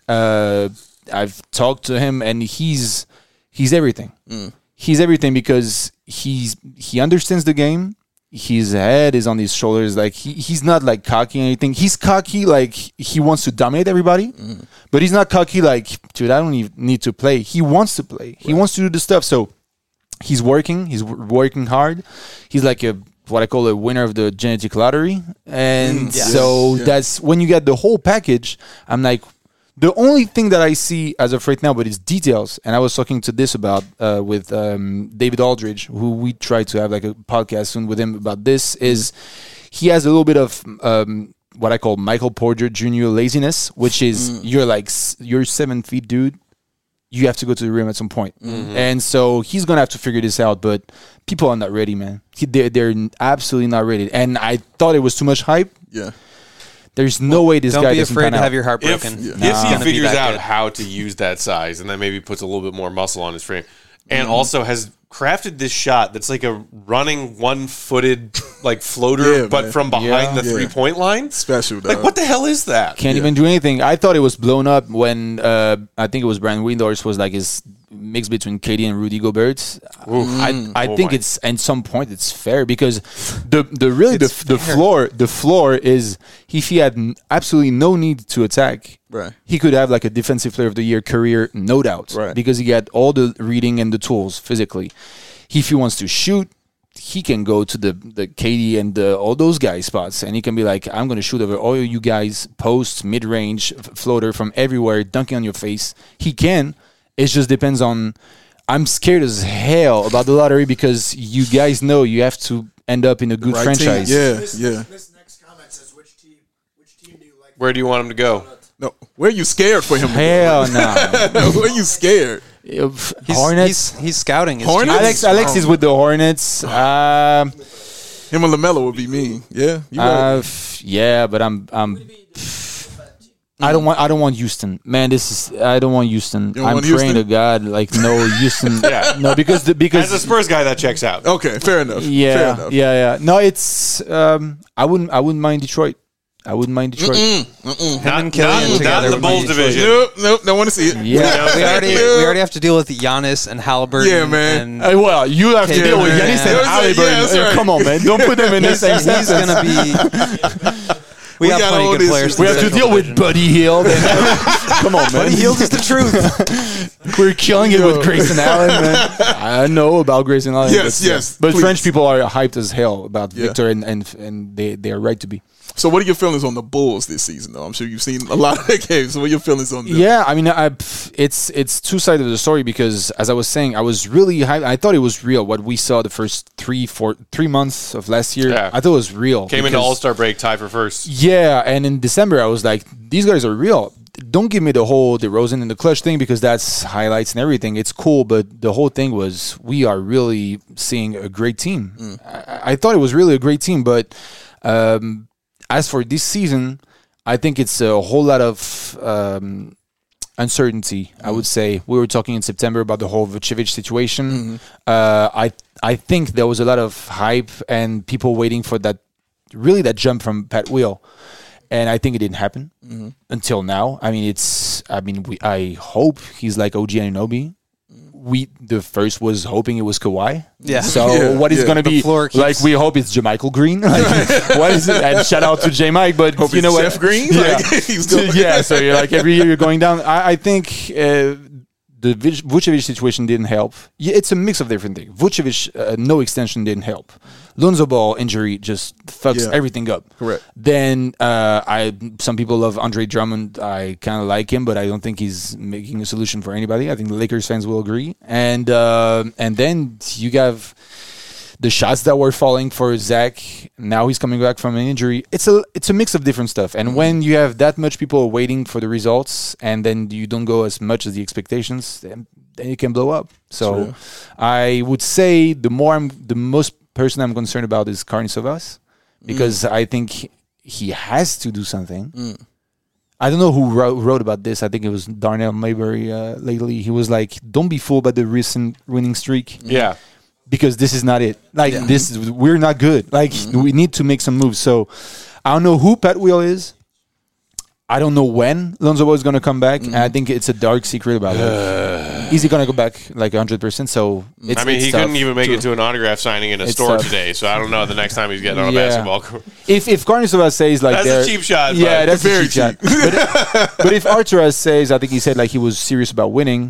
Uh, I've talked to him, and he's he's everything. He's everything because he's he understands the game. His head is on his shoulders. Like he, he's not like cocky or anything. He's cocky like he wants to dominate everybody, but he's not cocky like, dude, I don't even need to play. He wants to play. He wants to do the stuff. So he's working. He's w- working hard. He's like a what I call a winner of the genetic lottery, and so Yeah. that's when you get the whole package. I'm like, the only thing that I see as of right now, but it's details. And I was talking to this about uh, with um, David Aldridge, who we try to have like a podcast soon with him about this. Is he has a little bit of um, what I call Michael Porter Junior laziness, which is you're like s- you're seven feet, dude. You have to go to the rim at some point, and so he's gonna have to figure this out. But people are not ready, man. He, they're, they're absolutely not ready. And I thought it was too much hype. yeah. There's no way this Don't guy be doesn't afraid pan to out. have your heart If, broken. if It's he gonna be figures that out good. how to use that size and then maybe puts a little bit more muscle on his frame and also has crafted this shot that's like a running one-footed like floater Yeah, but man. from behind Yeah. the Yeah. three-point line, Special, dog. like what the hell is that? Can't even do anything. I thought it was blown up when uh, I think it was Brandon Windhorst was like his mix between K D and Rudy Gobert. I, I Oh think my. it's at some point it's fair because the the really the, the floor the floor is if he had n- absolutely no need to attack, Right. he could have like a defensive player of the year career, no doubt, Right. because he got all the reading and the tools physically. If he wants to shoot, he can go to the the K D and the, all those guys spots, and he can be like, I'm going to shoot over all you guys, post, mid range, f- floater from everywhere, dunking on your face. He can. It just depends on. I'm scared as hell about the lottery because you guys know you have to end up in a good Right franchise. team. Yeah, This, yeah. This next comment says, "Which team? Which team Where do you want him to go? No, where are you scared for him? to Hell no. go? Where are you scared? If- He's, Hornets. He's, he's scouting. His Hornets? Alex, teams. Alex is with the Hornets. Um, Him and LaMelo would be mean. Yeah, you right. uh, f- yeah, but I'm, I'm. I don't want. I don't want Houston, man. This is. I don't want Houston. don't I'm want praying Houston? to God, like no Houston. Yeah. No, because the, because As a Spurs guy, that checks out. Okay, fair enough. Fair yeah, enough. yeah, yeah. No, it's. Um, I wouldn't. I wouldn't mind Detroit. I wouldn't mind Detroit. Not, and Killian not, together not in the would be Bulls Detroit. division. Nope, nope, don't want to see it. Yeah. we already we already have to deal with Giannis and Halliburton. Yeah, man. And Uh, well, you have to Yeah, deal with man. Giannis Yeah, and yeah, Halliburton. that's Uh, right. Come on, man. Don't put them in the he's, same he's sentence. gonna be. We, We have got plenty all of good this- players. We in have the to deal Central with Division. Buddy Hield. And come on, man. Buddy Hield is the truth. We're killing it Yo. with Grayson Allen, man. I know about Grayson Allen. Yes, but, yes, But please. French people are hyped as hell about Yeah. Victor, and, and and they they are right to be. So, what are your feelings on the Bulls this season, though? I'm sure you've seen a lot of their games. So, what are your feelings on them? Yeah, I mean, I, it's it's two sides of the story because, as I was saying, I was really hyped. I thought it was real what we saw the first three, four, three months of last year. Yeah. I thought it was real. Came into because- All Star break, tied for first. Yeah, and in December, I was like, these guys are real. Don't give me the whole DeRozan and the clutch thing because that's highlights and everything. It's cool, but the whole thing was we are really seeing a great team. Mm. I, I thought it was really a great team, but um, as for this season, I think it's a whole lot of um, uncertainty. I would say we were talking in September about the whole Vucevic situation. Mm-hmm. Uh, I I think there was a lot of hype and people waiting for that, really that jump from Pat Wheel. And I think it didn't happen Mm-hmm. until now. I mean, it's. I mean, we. I hope he's like O G Anunoby. We the first was hoping it was Kawhi. Yeah. So Yeah, what is yeah. going to The be floor keeps- like? We hope it's JaMychal Green. Like, what is it? And shout out to J Mike, but Hope you know it's what? Jeff Green? Yeah. Like, he's going- yeah. So you're like every year you're going down. I, I think. Uh, the Vuc- Vucevic situation didn't help. Yeah, it's a mix of different things. Vucevic, uh, no extension didn't help. Lonzo Ball injury just fucks Yeah. everything up. Correct. Then uh, I some people love Andre Drummond. I kind of like him, but I don't think he's making a solution for anybody. I think the Lakers fans will agree. And uh, and then you have the shots that were falling for Zach. Now he's coming back from an injury. It's a it's a mix of different stuff. And when you have that much people waiting for the results, and then you don't go as much as the expectations, then, then it can blow up. So True. I would say the more I'm the most person I'm concerned about is Carne Savas because I think he has to do something. I don't know who wrote, wrote about this. I think it was Darnell Mayberry uh, lately. He was like, "Don't be fooled by the recent winning streak." Yeah. Because this is not it. Like this, is, we're not good. Like we need to make some moves. So I don't know who Pat Wheel is. I don't know when Lonzo Ball is going to come back. And I think it's a dark secret about it. Is he going to go back like one hundred percent? So it's, I mean, it's he tough. couldn't even make it to an autograph signing in a It's store tough. today, so I don't know the next time he's getting on a Yeah. basketball court. If if Carnesova says like That's a they're- cheap shot, yeah, but that's very a cheap, shot. But, but if Arturas says, I think he said like he was serious about winning,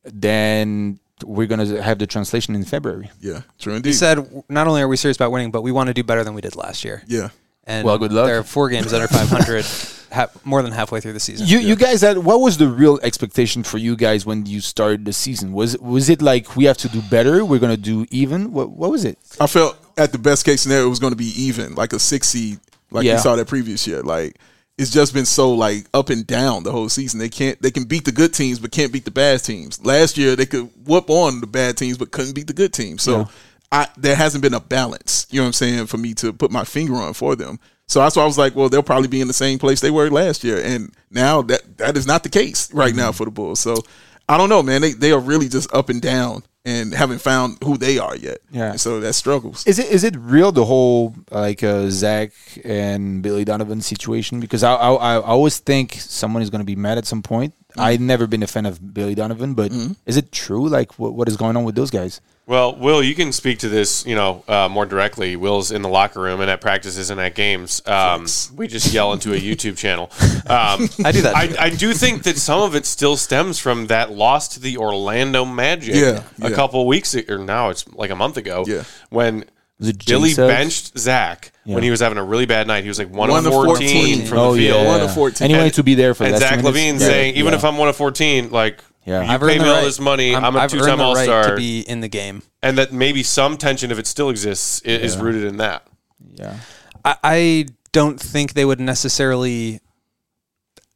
then we're gonna have the translation in February. Yeah, true He indeed. said, not only are we serious about winning, but we want to do better than we did last year. yeah. And Well, good luck. They're four games under five hundred, ha- more than halfway through the season. You you guys had what was the real expectation for you guys when you started the season? Was was it like we have to do better? We're gonna do even? What what was it? I felt at the best case scenario it was going to be even, like a six seed, like Yeah. we saw that previous year. Like it's just been so like up and down the whole season. They can't they can beat the good teams but can't beat the bad teams. Last year they could whoop on the bad teams but couldn't beat the good teams. So Yeah. I there hasn't been a balance. You know what I'm saying, for me to put my finger on for them. So that's why I was like, well, they'll probably be in the same place they were last year, and now that that is not the case right now for the Bulls. So I don't know, man. They they are really just up and down and haven't found who they are yet. Yeah. And so that struggles. Is it is it real the whole like uh, Zach and Billy Donovan situation? Because I I, I always think someone is going to be mad at some point. I've never been a fan of Billy Donovan, but is it true? Like what what is going on with those guys? Well, Will, you can speak to this, you know, uh, more directly. Will's in the locker room and at practices and at games. Um, we just yell into a YouTube channel. Um, I do that. I, too. I do think that some of it still stems from that loss to the Orlando Magic Yeah, a yeah. couple weeks ago, or now it's like a month ago, Yeah. when Was it Billy Jay Suggs? benched Zach Yeah. when he was having a really bad night. He was like one, One of of fourteen, fourteen. from oh the field. yeah, One of fourteen. and he wanted to be there for And that. Zach Levine saying, even if I'm one of fourteen, like, Yeah. you I've pay earned me the all right- this money, I'm, I'm- a I've earned two-time the right All-Star. to be in the game. And that maybe some tension, if it still exists, i- is rooted in that. yeah. I, I don't think they would necessarily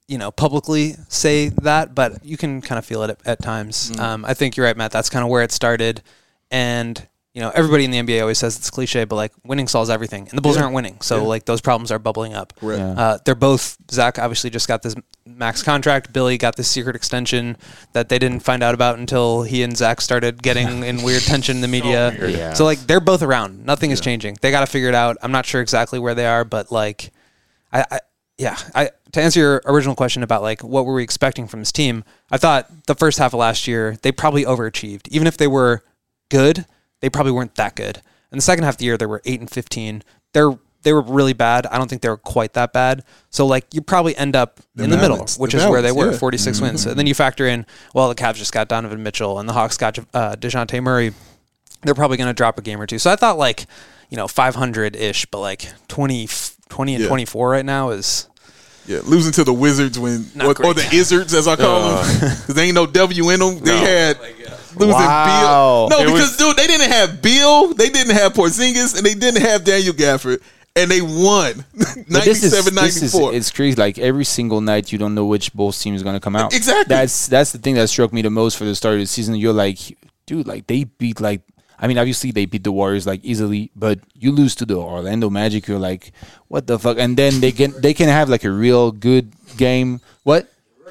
you know, publicly say that, but you can kind of feel it at, at times. Mm. Um, I think you're right, Matt. That's kind of where it started. And, you know, everybody in the N B A always says it's cliche, but like winning solves everything. And the Bulls yeah. aren't winning. So yeah. like those problems are bubbling up. Right. Yeah. Uh, they're both, Zach obviously just got this max contract. Billy got this secret extension that they didn't find out about until he and Zach started getting in weird tension in the media. So, yeah. so like they're both around. Nothing is yeah. changing. They got to figure it out. I'm not sure exactly where they are, but like, I, I Yeah, I to answer your original question about like what were we expecting from this team, I thought the first half of last year they probably overachieved. Even if they were good, they probably weren't that good. And the second half of the year they were eight and fifteen. They're they were really bad. I don't think they were quite that bad. So like you probably end up the in balance, the middle, which the is balance, where they were, yeah. forty-six mm-hmm. wins. And then you factor in, well, the Cavs just got Donovan Mitchell and the Hawks got uh, DeJounte Murray. They're probably going to drop a game or two. So I thought like, you know, five hundred ish, but like twenty, twenty and yeah. twenty-four right now is. Yeah, losing to the Wizards when, or, or the Izzards as I call uh, them, because there ain't no W in them. They no. had losing wow. Bill. No, it because was, dude, they didn't have Bill, they didn't have Porzingis, and they didn't have Daniel Gafford, and they won ninety-seven ninety-four. It's crazy. Like every single night, you don't know which Bulls team is going to come out. Exactly. That's that's the thing that struck me the most for the start of the season. You're like, dude, like they beat like. I mean, obviously they beat the Warriors like easily, but you lose to the Orlando Magic, you're like, what the fuck? And then they can they can have like a real good game. What?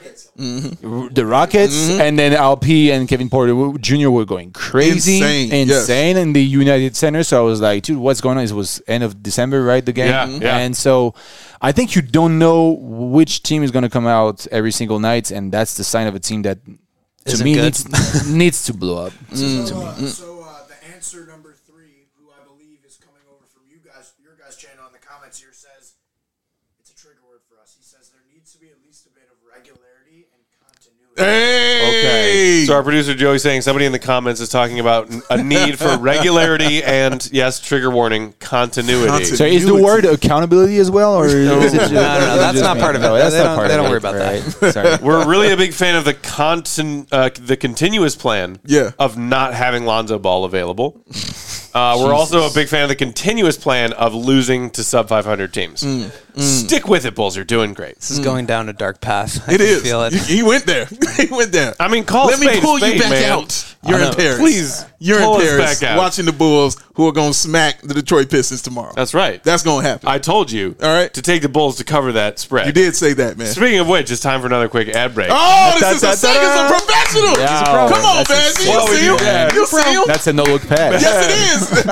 Mm-hmm. The Rockets, mm-hmm. and then L P and Kevin Porter Junior were going crazy, insane, insane yes. in the United Center. So I was like, dude, what's going on? It was end of December, right? The game, yeah, yeah. And so I think you don't know which team is going to come out every single night, and that's the sign of a team that to Isn't me good. needs needs to blow up. Mm. To me. So, so uh, the answer number three, who I believe is coming over from you guys, your guys' channel in the comments here, says it's a trigger word for us. He says there needs to be at least a bit of regularity and continuity. Hey! Okay. So our producer Joey's saying somebody in the comments is talking about a need for regularity and, yes, trigger warning, continuity. Continuity. So is the word accountability as well, or no, is it just, no, no, no, that's not part of it. No, that's they not don't, part they of don't it. worry about right. that. Sorry. We're really a big fan of the contin- uh, the continuous plan Yeah. of not having Lonzo Ball available. Uh, we're also a big fan of the continuous plan of losing to sub five hundred teams. Mm, mm. Stick with it, Bulls. You're doing great. This is mm. going down a dark path. I it is. Feel it. He went there. He went there. I mean, call Let spade, me pull spade, you back man. out. You're in Paris. Please, You're pull in us Paris back out. watching the Bulls who are going to smack the Detroit Pistons tomorrow. That's right. That's going to happen. I told you All right. to take the Bulls to cover that spread. You did say that, man. Speaking of which, it's time for another quick ad break. Oh, this is a second of professional. Yeah, Come on, that's man. You see him? Yeah. You see him? That's a no-look pass. Yes, it is.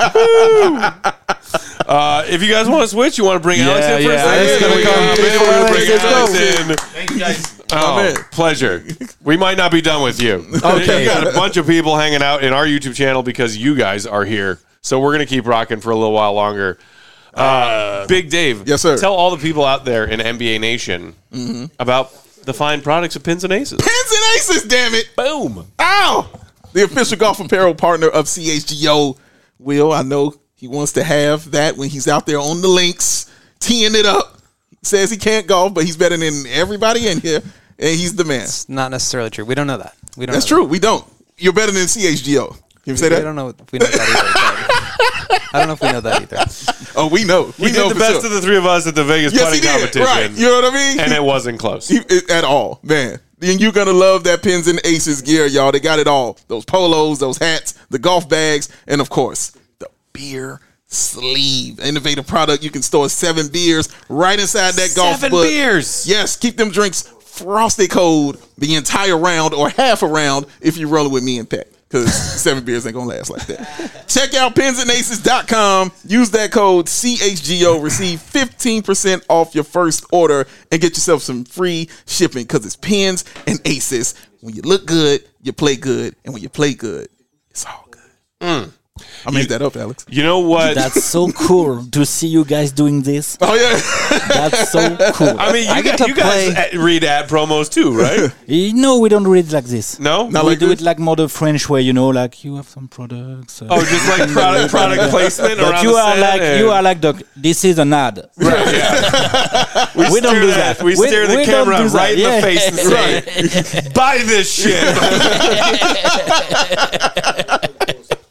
Uh, if you guys want to switch, you want to bring Yeah, Alex in for yeah, a Alex second? gonna We come. got- Bring bring Alex, Alex let's in. Thank you guys. Oh, man. pleasure. We might not be done with you. Okay. You got a bunch of people hanging out in our YouTube channel because you guys are here. So we're going to keep rocking for a little while longer. Uh, Big Dave. Yes, sir. Tell all the people out there in N B A Nation Mm-hmm. about the fine products of Pins and Aces. Pins and Aces, damn it. Boom. Ow! The official golf apparel partner of C H G O. Will, I know he wants to have that when he's out there on the links, teeing it up. He says he can't golf, but he's better than everybody in here, and he's the man. It's not necessarily true. We don't know that. We don't. That's know true. We don't. You're better than C H G O. Can you say that. that? I don't know if we know that either. I don't know if we know that either. Oh, we know. We He know did the for best sure. of the three of us at the Vegas Yes, putting he did. competition. Right. You know what I mean? And it wasn't close. He, it, at all, man. And you're gonna love that Pins and Aces gear, y'all. They got it all. Those polos, those hats, the golf bags, and of course, the beer sleeve. Innovative product. You can store seven beers right inside that golf Seven book. beers. Yes, keep them drinks frosty cold the entire round or half a round if you're rolling with me and Pat. Because seven beers ain't gonna last like that. Check out pins and aces dot com. Use that code C H G O. Receive fifteen percent off your first order and get yourself some free shipping because it's Pins and Aces. When you look good, you play good. And when you play good, it's all good. Mm. I made that up, Alex. You know what? That's so cool to see you guys doing this. Oh, yeah. That's so cool. I mean, you, I get gu- to you guys play- uh, read ad promos too, right? You know, we don't read it like this. No? Not we like do this? it like more the French way, you know, like you have some products. Uh, Oh, just like product product placement but around you the are set like and- you are like the this is an ad. Right, yeah. we, We don't stare do that. that. We, We- stare the we don't camera do that. right in Yeah. the face and say, buy this shit.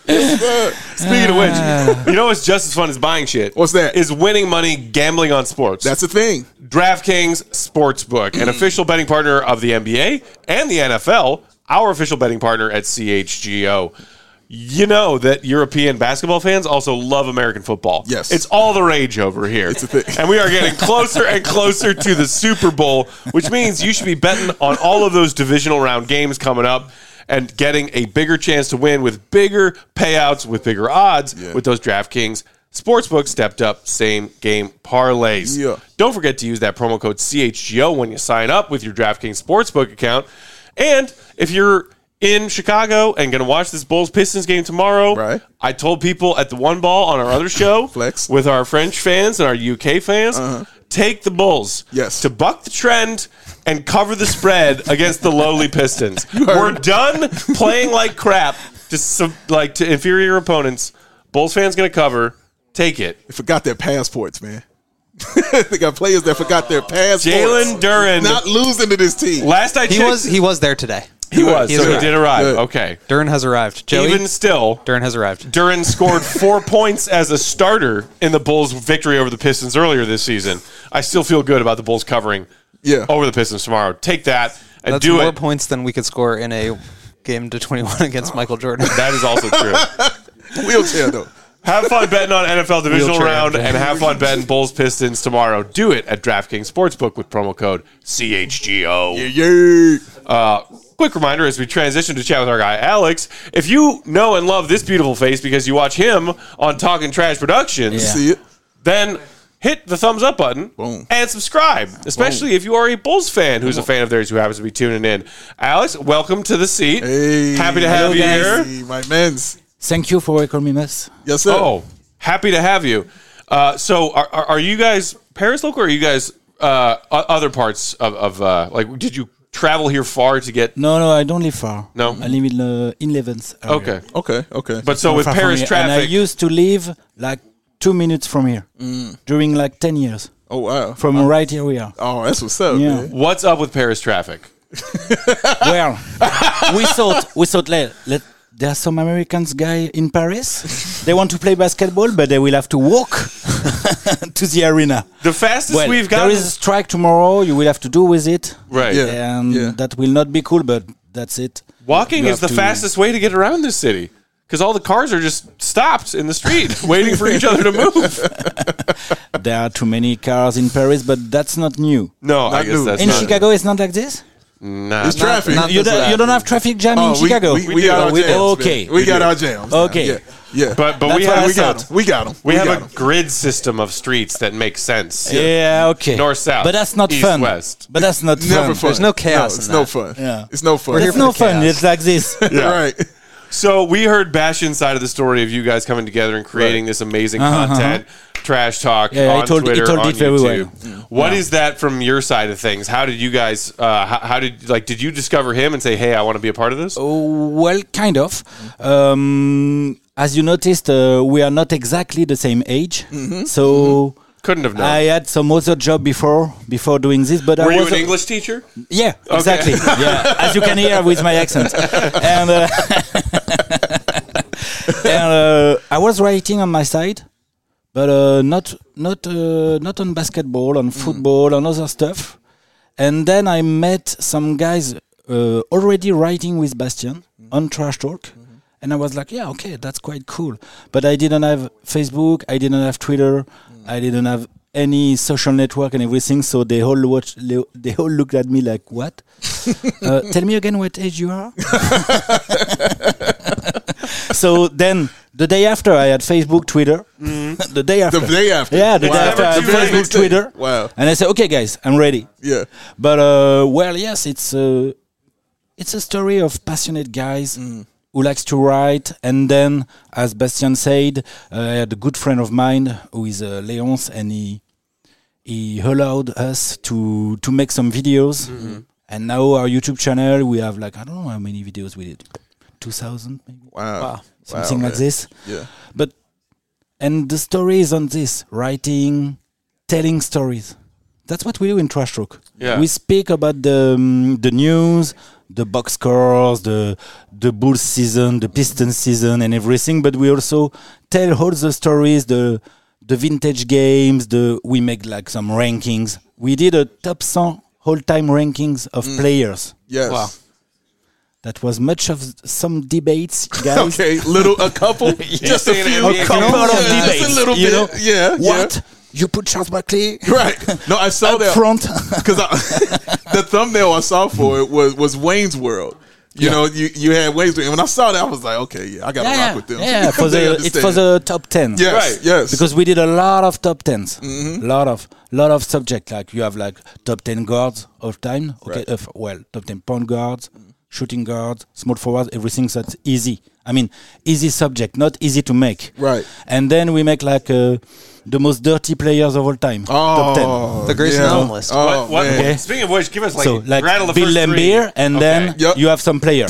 Speaking of which, you know what's just as fun as buying shit? What's that? Is winning money gambling on sports. That's the thing. DraftKings Sportsbook, an official betting partner of the N B A and the N F L, our official betting partner at C H G O. You know that European basketball fans also love American football. Yes. It's all the rage over here. It's a thing. And we are getting closer and closer to the Super Bowl, which means you should be betting on all of those divisional round games coming up and getting a bigger chance to win with bigger payouts, with bigger odds Yeah. with those DraftKings Sportsbook stepped up same game parlays. Yeah. Don't forget to use that promo code C H G O when you sign up with your DraftKings Sportsbook account. And if you're in Chicago and going to watch this Bulls-Pistons game tomorrow, Right. I told people at the One Ball on our other show Flex. with our French fans and our U K fans, take the Bulls Yes. to buck the trend and cover the spread against the lowly Pistons. We're done playing like crap to some, like to inferior opponents. Bulls fans going to cover. Take it. They forgot their passports, man. They got players that forgot their passports. Jalen Duren. Not losing to this team. Last I He checked, was he was there today. he was, He's so he arrived. did arrive. Good. Okay. Duren has arrived. Joey, Even still, Duren has arrived. Duren scored four points as a starter in the Bulls' victory over the Pistons earlier this season. I still feel good about the Bulls covering Yeah. over the Pistons tomorrow. Take that and That's do more it. points than we could score in a game to twenty-one against Michael Jordan. That is also true. Wheelchair, though. Have fun betting on N F L divisional Wheelchair round M J. and have fun betting Bulls Pistons tomorrow. Do it at DraftKings Sportsbook with promo code C H G O. Yeah. Uh, quick reminder as we transition to chat with our guy Alex, if you know and love this beautiful face because you watch him on Talking Trash Productions, Yeah. See it? then hit the thumbs up button Boom. and subscribe, especially if you are a Bulls fan who's a fan of theirs who happens to be tuning in. Alex, welcome to the seat. Hey. Happy to have Hello, you guys. here. Hey, my men's. Thank you for welcoming us. Yes, sir. Oh, happy to have you. Uh, so, are, are are you guys Paris local, or are you guys uh, o- other parts of, of uh, like? Did you travel here far to get? No, no, I don't live far. No? I live in uh, in Levens. area. Okay, Okay, okay. but so Not with far from Paris here. And I traffic, used to live like two minutes from here during like ten years. oh, wow. From right here we are. Oh, that's what's up, Yeah. man. what's up with Paris traffic? Well, we thought we thought let, let there are some Americans guy in Paris. They want to play basketball, but they will have to walk to the arena. The fastest Well, we've there gotten, is a strike tomorrow. You will have to do with it, right? Yeah. and Yeah. that will not be cool. But that's it. Walking You is the have to- fastest way to get around this city because all the cars are just stopped in the street, waiting for each other to move. There are too many cars in Paris, but that's not new. No, I Not guess new. that's In not. Chicago, it's not like this. Nah, It's traffic. not- You, don't, you don't have traffic jam Oh, in we, Chicago. we, we, We do. got our We jams. do. man. Okay. We, We got do. our jams. now. Okay. Yeah. Yeah. but but That's we what have I we got thought. them. We got them. we have got a 'em. grid system of streets that makes sense. Yeah, okay. North, south, But that's not east, fun. west. But that's not Never fun. fun. There's no chaos No, in it's that. no fun. Yeah. It's no fun. We're here It's for no the fun. chaos. It's like this. Right. So we heard Bastion's side of the story of you guys coming together and creating this amazing Uh-huh, content, trash talk Yeah, on I told- he Twitter, told on it very YouTube. well. What is that from your side of things? How did you guys? Uh, how, how did like? Did you discover him and say, "Hey, I want to be a part of this"? Oh, well, kind of. Um, as you noticed, uh, we are not exactly the same age. So Couldn't have known. I had some other job before before doing this. But Were I you was an a- English teacher? Yeah, exactly. Yeah, as you can hear with my accent. And, uh, and uh, I was writing on my side, but uh, not not uh, not on basketball, on football, on other stuff. And then I met some guys uh, already writing with Bastien on Trash Talk. And I was like, yeah, okay, that's quite cool. But I didn't have Facebook, I didn't have Twitter, I didn't have any social network and everything. So they all watched, they all looked at me like, what? uh, tell me again what age you are. So then the day after, I had Facebook, Twitter. The day after. The day after. Yeah, the Wow. day after, I had The very Facebook, next day. Twitter. Wow. And I said, okay, guys, I'm ready. Yeah. But uh, well, yes, it's a it's a story of passionate guys who likes to write. And then, as Bastien said, uh, I had a good friend of mine who is uh, Léonce, and he he allowed us to to make some videos. And now our YouTube channel, we have like I don't know how many videos we did, two thousand maybe, Wow. Wow. something Wow, like man. this. Yeah. But and the story is on this writing, telling stories. That's what we do in Trash Talk. Yeah. We speak about the um, the news, the box scores, the the Bulls season, the Pistons season, and everything. But we also tell all the stories, the the vintage games. The we make like some rankings. We did a top one hundred all-time rankings of players. Yes. Wow. That was much of some debates, guys. Okay, little a couple, just a saying few, N B A a couple can of also- debates, Just a little you bit. know, yeah, What? You put Charles Barkley yeah. Right. No, I saw up that front? because the thumbnail I saw for it was was Wayne's World. You Yeah. know, you, you had Wayne's World. And when I saw that, I was like, okay, yeah, I got to yeah, rock with them. yeah. For They the it's for understand. the top ten. Yes, Right. yes. Because we did a lot of top tens, lot of lot of subject. Like you have like top ten guards of time. Okay, Right. uh, f- well, top ten point guards, shooting guards, small forwards, everything that's easy. I mean, easy subject, not easy to make. Right. And then we make like uh, the most dirty players of all time. top ten. Oh, The Grayson yeah. Allen list. Oh, What, what, man. Okay. Speaking of which, give us like, So like rattle the Bill first three. Laimbeer, and Okay. then Yep. you have some players.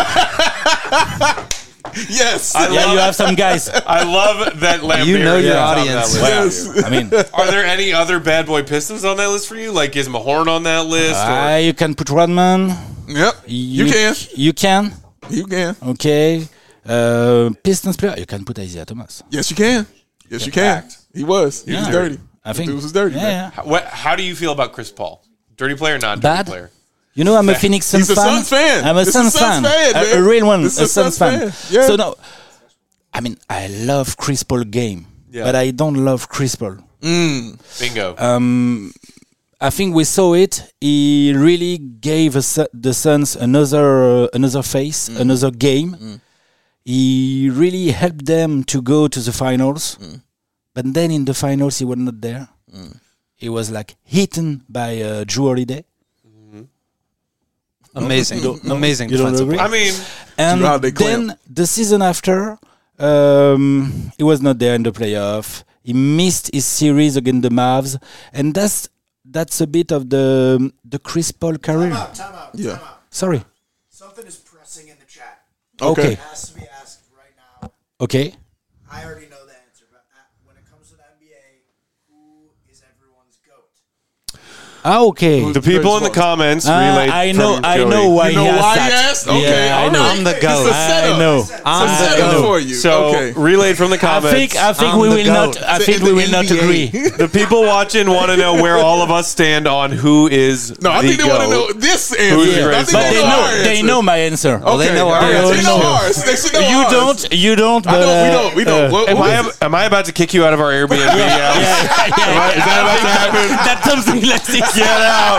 Yes. I yeah, love you it. have some guys. I love that Lambeer You know is your on audience. that list. Yes. I mean, Are there any other bad boy Pistons on that list for you? Like is Mahorn on that list? uh, you can put Rodman. Yep. You can. You can. You can. Okay. Uh, Pistons player. You can put Isaiah Thomas. Yes, you can. Yes, you can. Fact. He was. He was Yeah. dirty. I think. Dude was dirty. Yeah, man. yeah. How, what, how do you feel about Chris Paul? Dirty player, non dirty Bad? player? You know, I'm a Phoenix Suns He's a fan. Suns fan. I'm a This is Suns a Suns fan. fan, a, man. a real one. This a is a Suns Suns fan. fan. Yeah. So no, I mean, I love Chris Paul game, Yeah. but I don't love Chris Paul. Bingo. Um, I think we saw it. He really gave us, the Suns another uh, another face, another game. He really helped them to go to the finals. But then in the finals, he was not there. He was like hidden by uh, Drew Holiday. Amazing, amazing You don't defensive agree? I mean, And Drew Holiday then clamp. the season after, um, he was not there in the playoff. He missed his series against the Mavs, and that's that's a bit of the the Chris Paul career. Time out, time out, Yeah. time out. Sorry. Something is pressing in the chat. Okay. It has to be asked right now. Okay. I already know the answer, but uh, when it comes to the N B A, who is everyone's GOAT? Ah, okay. the people in the comments Ah, relayed I know. from I Joey. know why You know he why asked he that. asked? Okay, Yeah, I all know. right. I'm the It's goat. a setup. I know. It's a I'm the setup goat. for you. So okay. relayed from the I comments. think I think I'm we the will not. goat. I think In we the will not N B A. agree. the people watching want to know where all of us stand on who is No, I the think they want to know GOAT. this Who's answer. the I greatest think But of they all know. our They answer. know my answer. Okay. they know all ours. right. They know know. ours. They should know You ours. don't. You don't. I But, know. We uh, don't. We don't. uh, What- Am what I, is it? am I about to kick you out of our Airbnb? Yeah. yeah, yeah, yeah. Is that about to happen? That's something like this. Get out.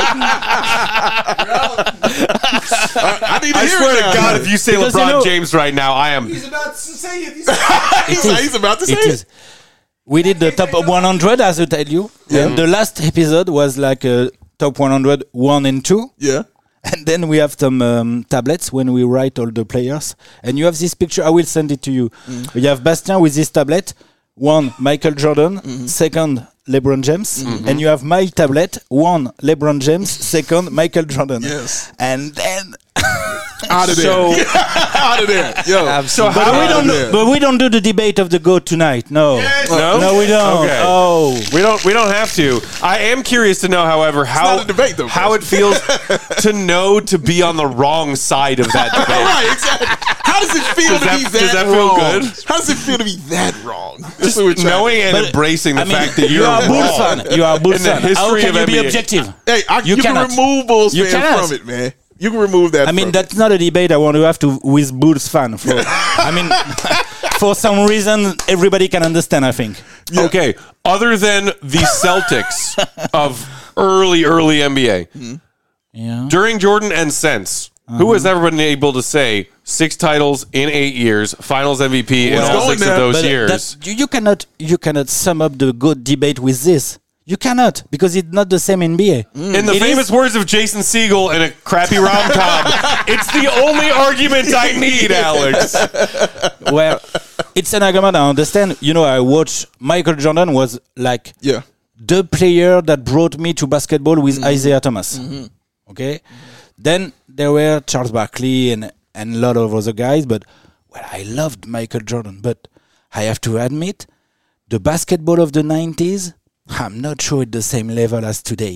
I, I need to I hear swear it to now. God, if you say Because, LeBron you know- James right now, I am. He's about to say it. He's he's, he's about to say It it. is. We did the top one hundred, as I tell you. And the last episode was like a top one hundred, one and two. Yeah. And then we have some um, tablets when we write all the players. And you have this picture. I will send it to you. You have Bastien with this tablet. One, Michael Jordan. Second, LeBron James. And you have my tablet. One, LeBron James. Second, Michael Jordan. Yes. And then... Out of there. So, Out of there. Yo. so But how we don't. Yeah. Do, but we don't do the debate of the goat tonight. No. No? No, we don't. Okay. Oh. We don't. We don't have to. I am curious to know, however, how not a debate, though, how it feels to know to be on the wrong side of that debate. Right, exactly. How does it feel Does to that- be does that, that feel wrong? good? How does it feel to be that wrong? Just Knowing and But, embracing the I mean, fact that you you're are a Bulls wrong. fan. You are a Bulls In the fan. How history can of you N B A. be objective? Hey, I, you, You can cannot. remove Bulls You fans cannot. from it, man. You can remove that. I mean, from that's not a debate I want to have to with Bulls fan. For, I mean, for some reason, everybody can understand. I think. Okay, other than the Celtics of early, early N B A, Yeah. during Jordan and since, who has ever been able to say six titles in eight years, Finals M V P in Let's all go six in of there. those But years? that- you, you cannot. You cannot sum up the good debate with this. You cannot because it's not the same N B A. In the It famous is- words of Jason Segel in a crappy rom com, it's the only argument I need, Alex. Well, it's an argument I understand. You know, I watched Michael Jordan was like Yeah. the player that brought me to basketball with Isaiah Thomas. Okay, then there were Charles Barkley and and a lot of other guys, but well, I loved Michael Jordan. But I have to admit, the basketball of the nineties, I'm not sure at the same level as today.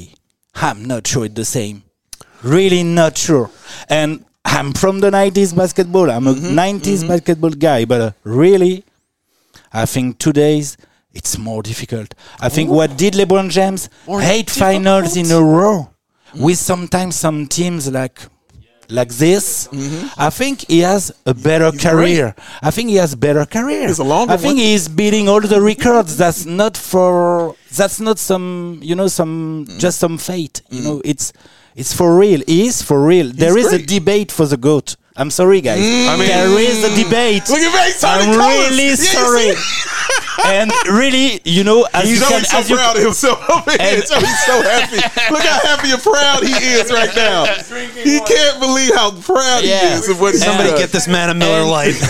I'm not sure it's the same. Really not sure. And I'm from the nineties basketball. I'm a Mm-hmm. nineties basketball guy, but uh, really, I think today's it's more difficult. I think what did LeBron James? Eight finals in a row with sometimes some teams like like this. I think he has a better career. I think he has better career. It's a longer I think one. he's beating all the records. That's not for. That's not some. You know, some just some fate. You know, it's it's for real. He is for real. There is great. a debate for the GOAT. I'm sorry, guys. I mean- there is a debate. Look at me, turning I'm colors. really Yeah, you sorry. see? And really, you know, as He's you can, always so as you proud of himself over here. And- So he's so happy. Look how happy and proud he is right now. He can't believe how proud Yeah. he is of what he's Somebody done. get this man a Miller And- Lite.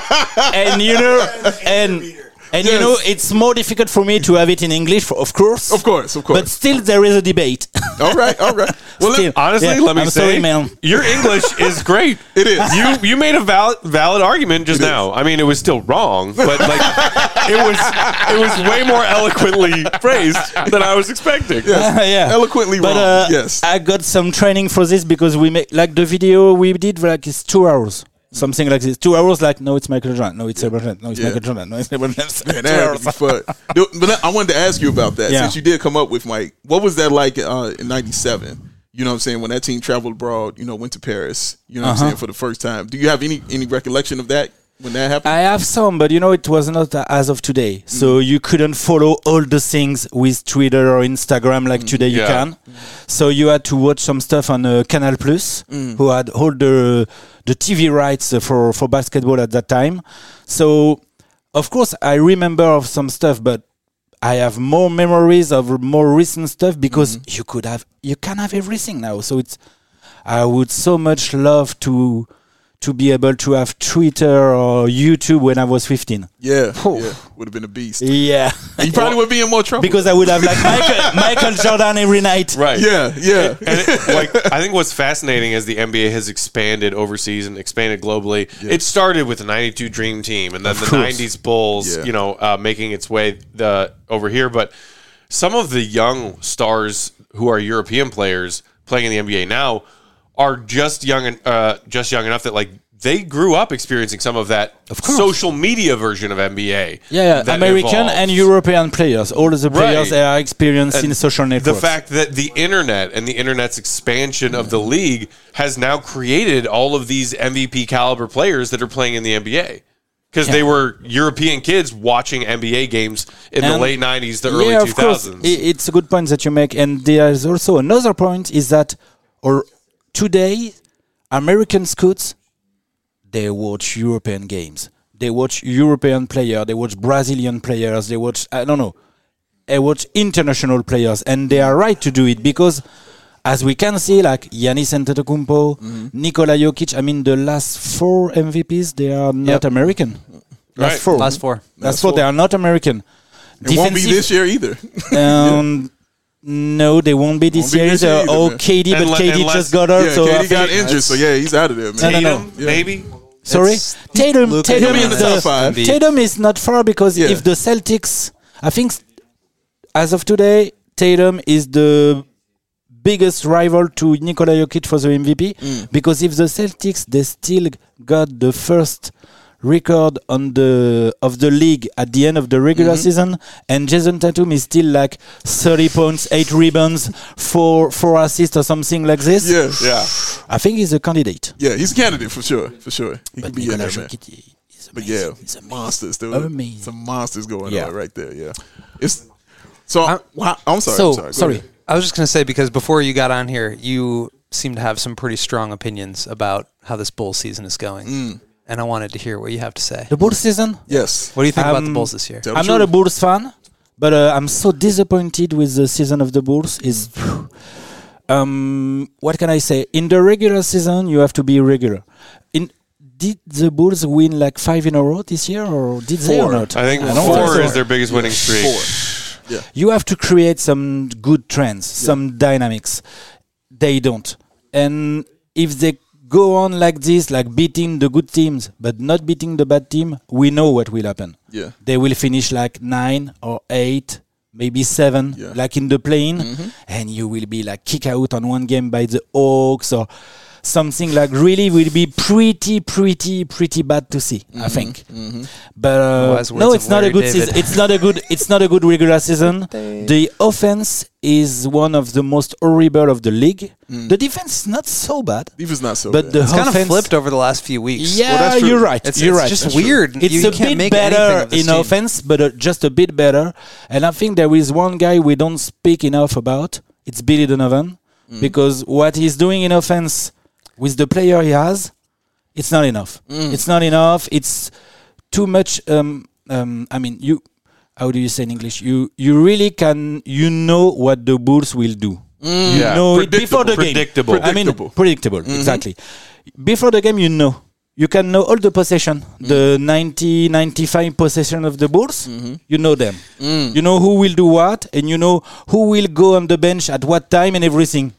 and you know, and and you Yes. know, it's more difficult for me to have it in English, for, of course. Of course, of course. But still, there is a debate. all right, all right. Well, Still. let, Honestly, Yeah, let me I'm say, sorry, man. your English is great. It is. You you made a valid valid argument just It is. now. I mean, it was still wrong, but like it was it was way more eloquently phrased than I was expecting. yeah, eloquently But wrong. uh, yes. I got some training for this because we make like the video we did like it's two hours. Something like this. Two hours, like, no, it's Michael Jordan. No, it's LeBron James. No, it's Yeah. Michael Jordan. No, it's LeBron James. Man, Two that had hours. to be fun. Dude, But I wanted to ask you about that. Yeah. Since you did come up with Mike, what was that like uh, in ninety-seven? You know what I'm saying? When that team traveled abroad, you know, went to Paris, you know what I'm Uh-huh. saying, for the first time. Do you have any any recollection of that when that happened? I have some, but you know, it was not as of today. So Mm. you couldn't follow all the things with Twitter or Instagram like today you Yeah. can. So you had to watch some stuff on uh, Canal Plus, Mm. who had all the the T V rights uh, for for basketball at that time. So of course I remember of some stuff, but I have more memories of more recent stuff because Mm-hmm. you could have you can have everything now. So it's I would so much love to to be able to have Twitter or YouTube when I was fifteen. yeah, Phew. yeah. Would have been a beast. Yeah. You probably would be in more trouble. Because I would have like Michael, Michael Jordan every night. Right. yeah, yeah. And it, like I think what's fascinating as the N B A has expanded overseas and expanded globally. It started with the ninety-two Dream Team and then the course. nineties Bulls, Yeah. you know, uh, making its way the over here. But some of the young stars who are European players playing in the N B A now are just young and uh, just young enough that like they grew up experiencing some of that course. social media version of N B A. Yeah, yeah. that American evolves. and European players. All of the players Right. they are experiencing And social The networks. fact that the internet and the internet's expansion of the league has now created all of these M V P caliber players that are playing in the N B A. Because they were European kids watching N B A games in the And- late nineties, the early yeah, two of course. thousands. I- It's a good point that you make. And there is also another point is that or today, American scouts, they watch European games. They watch European players. They watch Brazilian players. They watch, I don't know, they watch international players. And they are right to do it because, as we can see, like Giannis Antetokounmpo, Nikola Jokic, I mean, the last four M V Ps, they are not Yep. American. Last Right. four. Last four. Last Last four, four. they are not American. It won't be this year either. Um, no, they won't be this Won't be year. this year either. either, Oh, man. K D, but Unle- K D unless- just got hurt. yeah, so I K D got think- injured, so yeah, he's out of there, man. No, no, no. Tatum, Yeah. maybe. Sorry, It's Tatum. Luka Tatum He'll be is in the the top five. Tatum is not far because Yeah. if the Celtics, I think, as of today, Tatum is the biggest rival to Nikola Jokic for the M V P because if the Celtics they still got the first record on the of the league at the end of the regular season and Jason Tatum is still like thirty points, eight rebounds, four four assists or something like this. Yeah, Yeah. I think he's a candidate. yeah, he's a candidate for sure, for sure. He But could be in Nikola there, man. Jokic is But amazing. yeah, He's amazing. monsters, dude. Amazing. Some monsters going Yeah. on right there. Yeah, it's so. I'm- wow, I'm sorry. So, I'm sorry. Go sorry. ahead. I was just going to say, because before you got on here, you seem to have some pretty strong opinions about how this Bulls season is going. Mm. And I wanted to hear what you have to say. The Bulls season? Yes. What do you think about the Um, Bulls this year? Tell the I'm not a truth. Bulls fan, but uh, I'm so disappointed with the season of the Bulls. Is um, what can I say? In the regular season, you have to be regular. In did the Bulls win like five in a row this year, or did they or Four. not? I think don't four think so. is their biggest winning streak. Four. You have to create some good trends, some dynamics. They don't. And if they go on like this, like beating the good teams, but not beating the bad team, we know what will happen. Yeah. They will finish like nine or eight maybe seven, Yeah. like in the plane, and you will be like kick out on one game by the Hawks or something like really will be pretty, pretty, pretty bad to see. I think, but uh, Wise words no, of it's not a Larry good David. season. It's not a good. It's not a good regular season. The offense is one of the most horrible of the league. The defense is not so bad, Defense not so but bad. the It's kind of offense flipped over the last few weeks. Yeah, that's true. you're right. It's, you're it's right. just That's weird. true. It's you a can't bit make anything better of this in team. offense, but uh, just a bit better. And I think there is one guy we don't speak enough about. It's Billy Donovan, because what he's doing in offense with the player he has, it's not enough. It's not enough. It's too much. Um, um, I mean, you. How do you say in English? You you really can. You know what the Bulls will do. You Yeah. know it before the Predictable. game. I mean, Predictable. predictable. Exactly. Before the game, you know. You can know all the possession, the ninety, ninety-five possession of the Bulls. You know them. You know who will do what, and you know who will go on the bench at what time and everything.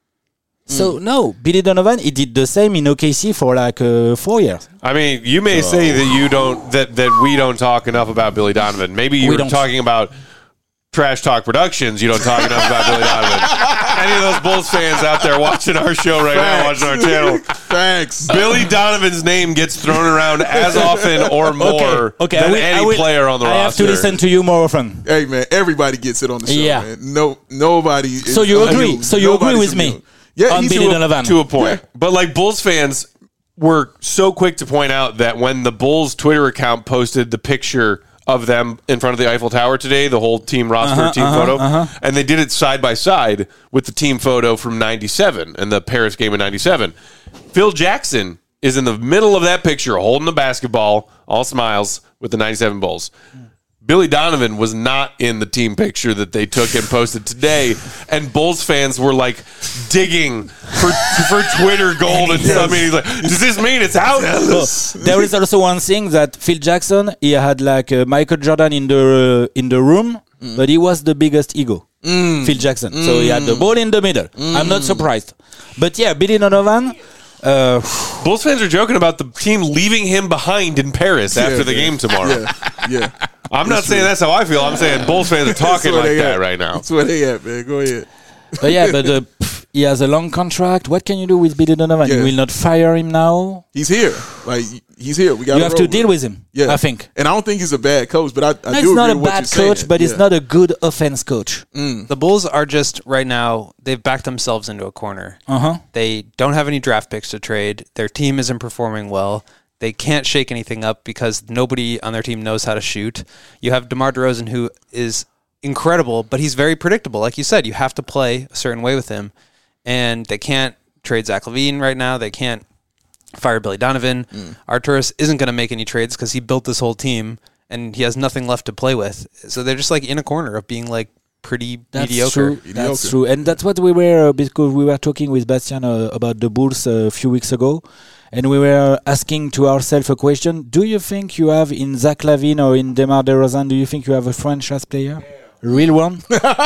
So no, Billy Donovan, he did the same in O K C for like uh, four years. I mean, you may say that you don't that that we don't talk enough about Billy Donovan. Maybe you We were don't. talking about Trash Talk Productions. You don't talk enough about Billy Donovan. Any of those Bulls fans out there watching our show right now, Facts. watching our channel, Thanks. Billy Donovan's name gets thrown around as often or more okay, than I will- any I will- player on the I have roster. to listen to you more often. Hey man, everybody gets it on the show. Yeah. Man. No, nobody. Is So you agree? immune. So you agree Nobody's with me immune. Yeah, on he's Billy to a- Donovan? to a point. Yeah. But like Bulls fans were so quick to point out that when the Bulls Twitter account posted the picture of them in front of the Eiffel Tower today, the whole team roster Uh-huh, team uh-huh, photo, uh-huh. and they did it side by side with the team photo from ninety-seven and the Paris game in ninety-seven. Phil Jackson is in the middle of that picture holding the basketball, all smiles, with the ninety-seven Bulls. Billy Donovan was not in the team picture that they took and posted today, and Bulls fans were like digging for for Twitter gold and stuff. I mean, he's like, does this mean it's out? Well, there is also one thing that Phil Jackson, he had like uh, Michael Jordan in the uh, in the room, but he was the biggest ego. Phil Jackson, so he had the ball in the middle. I'm not surprised, but yeah, Billy Donovan. Uh, Bulls fans are joking about the team leaving him behind in Paris after the man. game tomorrow. Yeah, yeah. I'm not saying that's how I feel. I'm saying Bulls fans are talking where like they that at. right now. That's where they at, man. Go ahead. but yeah, but uh, pff, he has a long contract. What can you do with Billy Donovan? Yeah. You will not fire him now. He's here. Like he's here. We got. You have to deal with him. Yeah, I think. And I don't think he's a bad coach, but I, I No, do he's not agree a with what bad you're coach, saying. but he's Yeah. not a good offense coach. The Bulls are just right now, they've backed themselves into a corner. Uh huh. They don't have any draft picks to trade. Their team isn't performing well. They can't shake anything up because nobody on their team knows how to shoot. You have DeMar DeRozan, who is incredible, but he's very predictable. Like you said, you have to play a certain way with him. And they can't trade Zach LaVine right now. They can't fire Billy Donovan. Mm. Arturis isn't going to make any trades because he built this whole team and he has nothing left to play with. So they're just like in a corner of being like pretty That's mediocre. true. Mediocre. That's true, and that's what we were uh, because we were talking with Bastian uh, about the Bulls uh, a few weeks ago, and we were asking to ourselves a question: do you think you have in Zach LaVine or in DeMar DeRozan? Do you think you have a franchise player, a real one,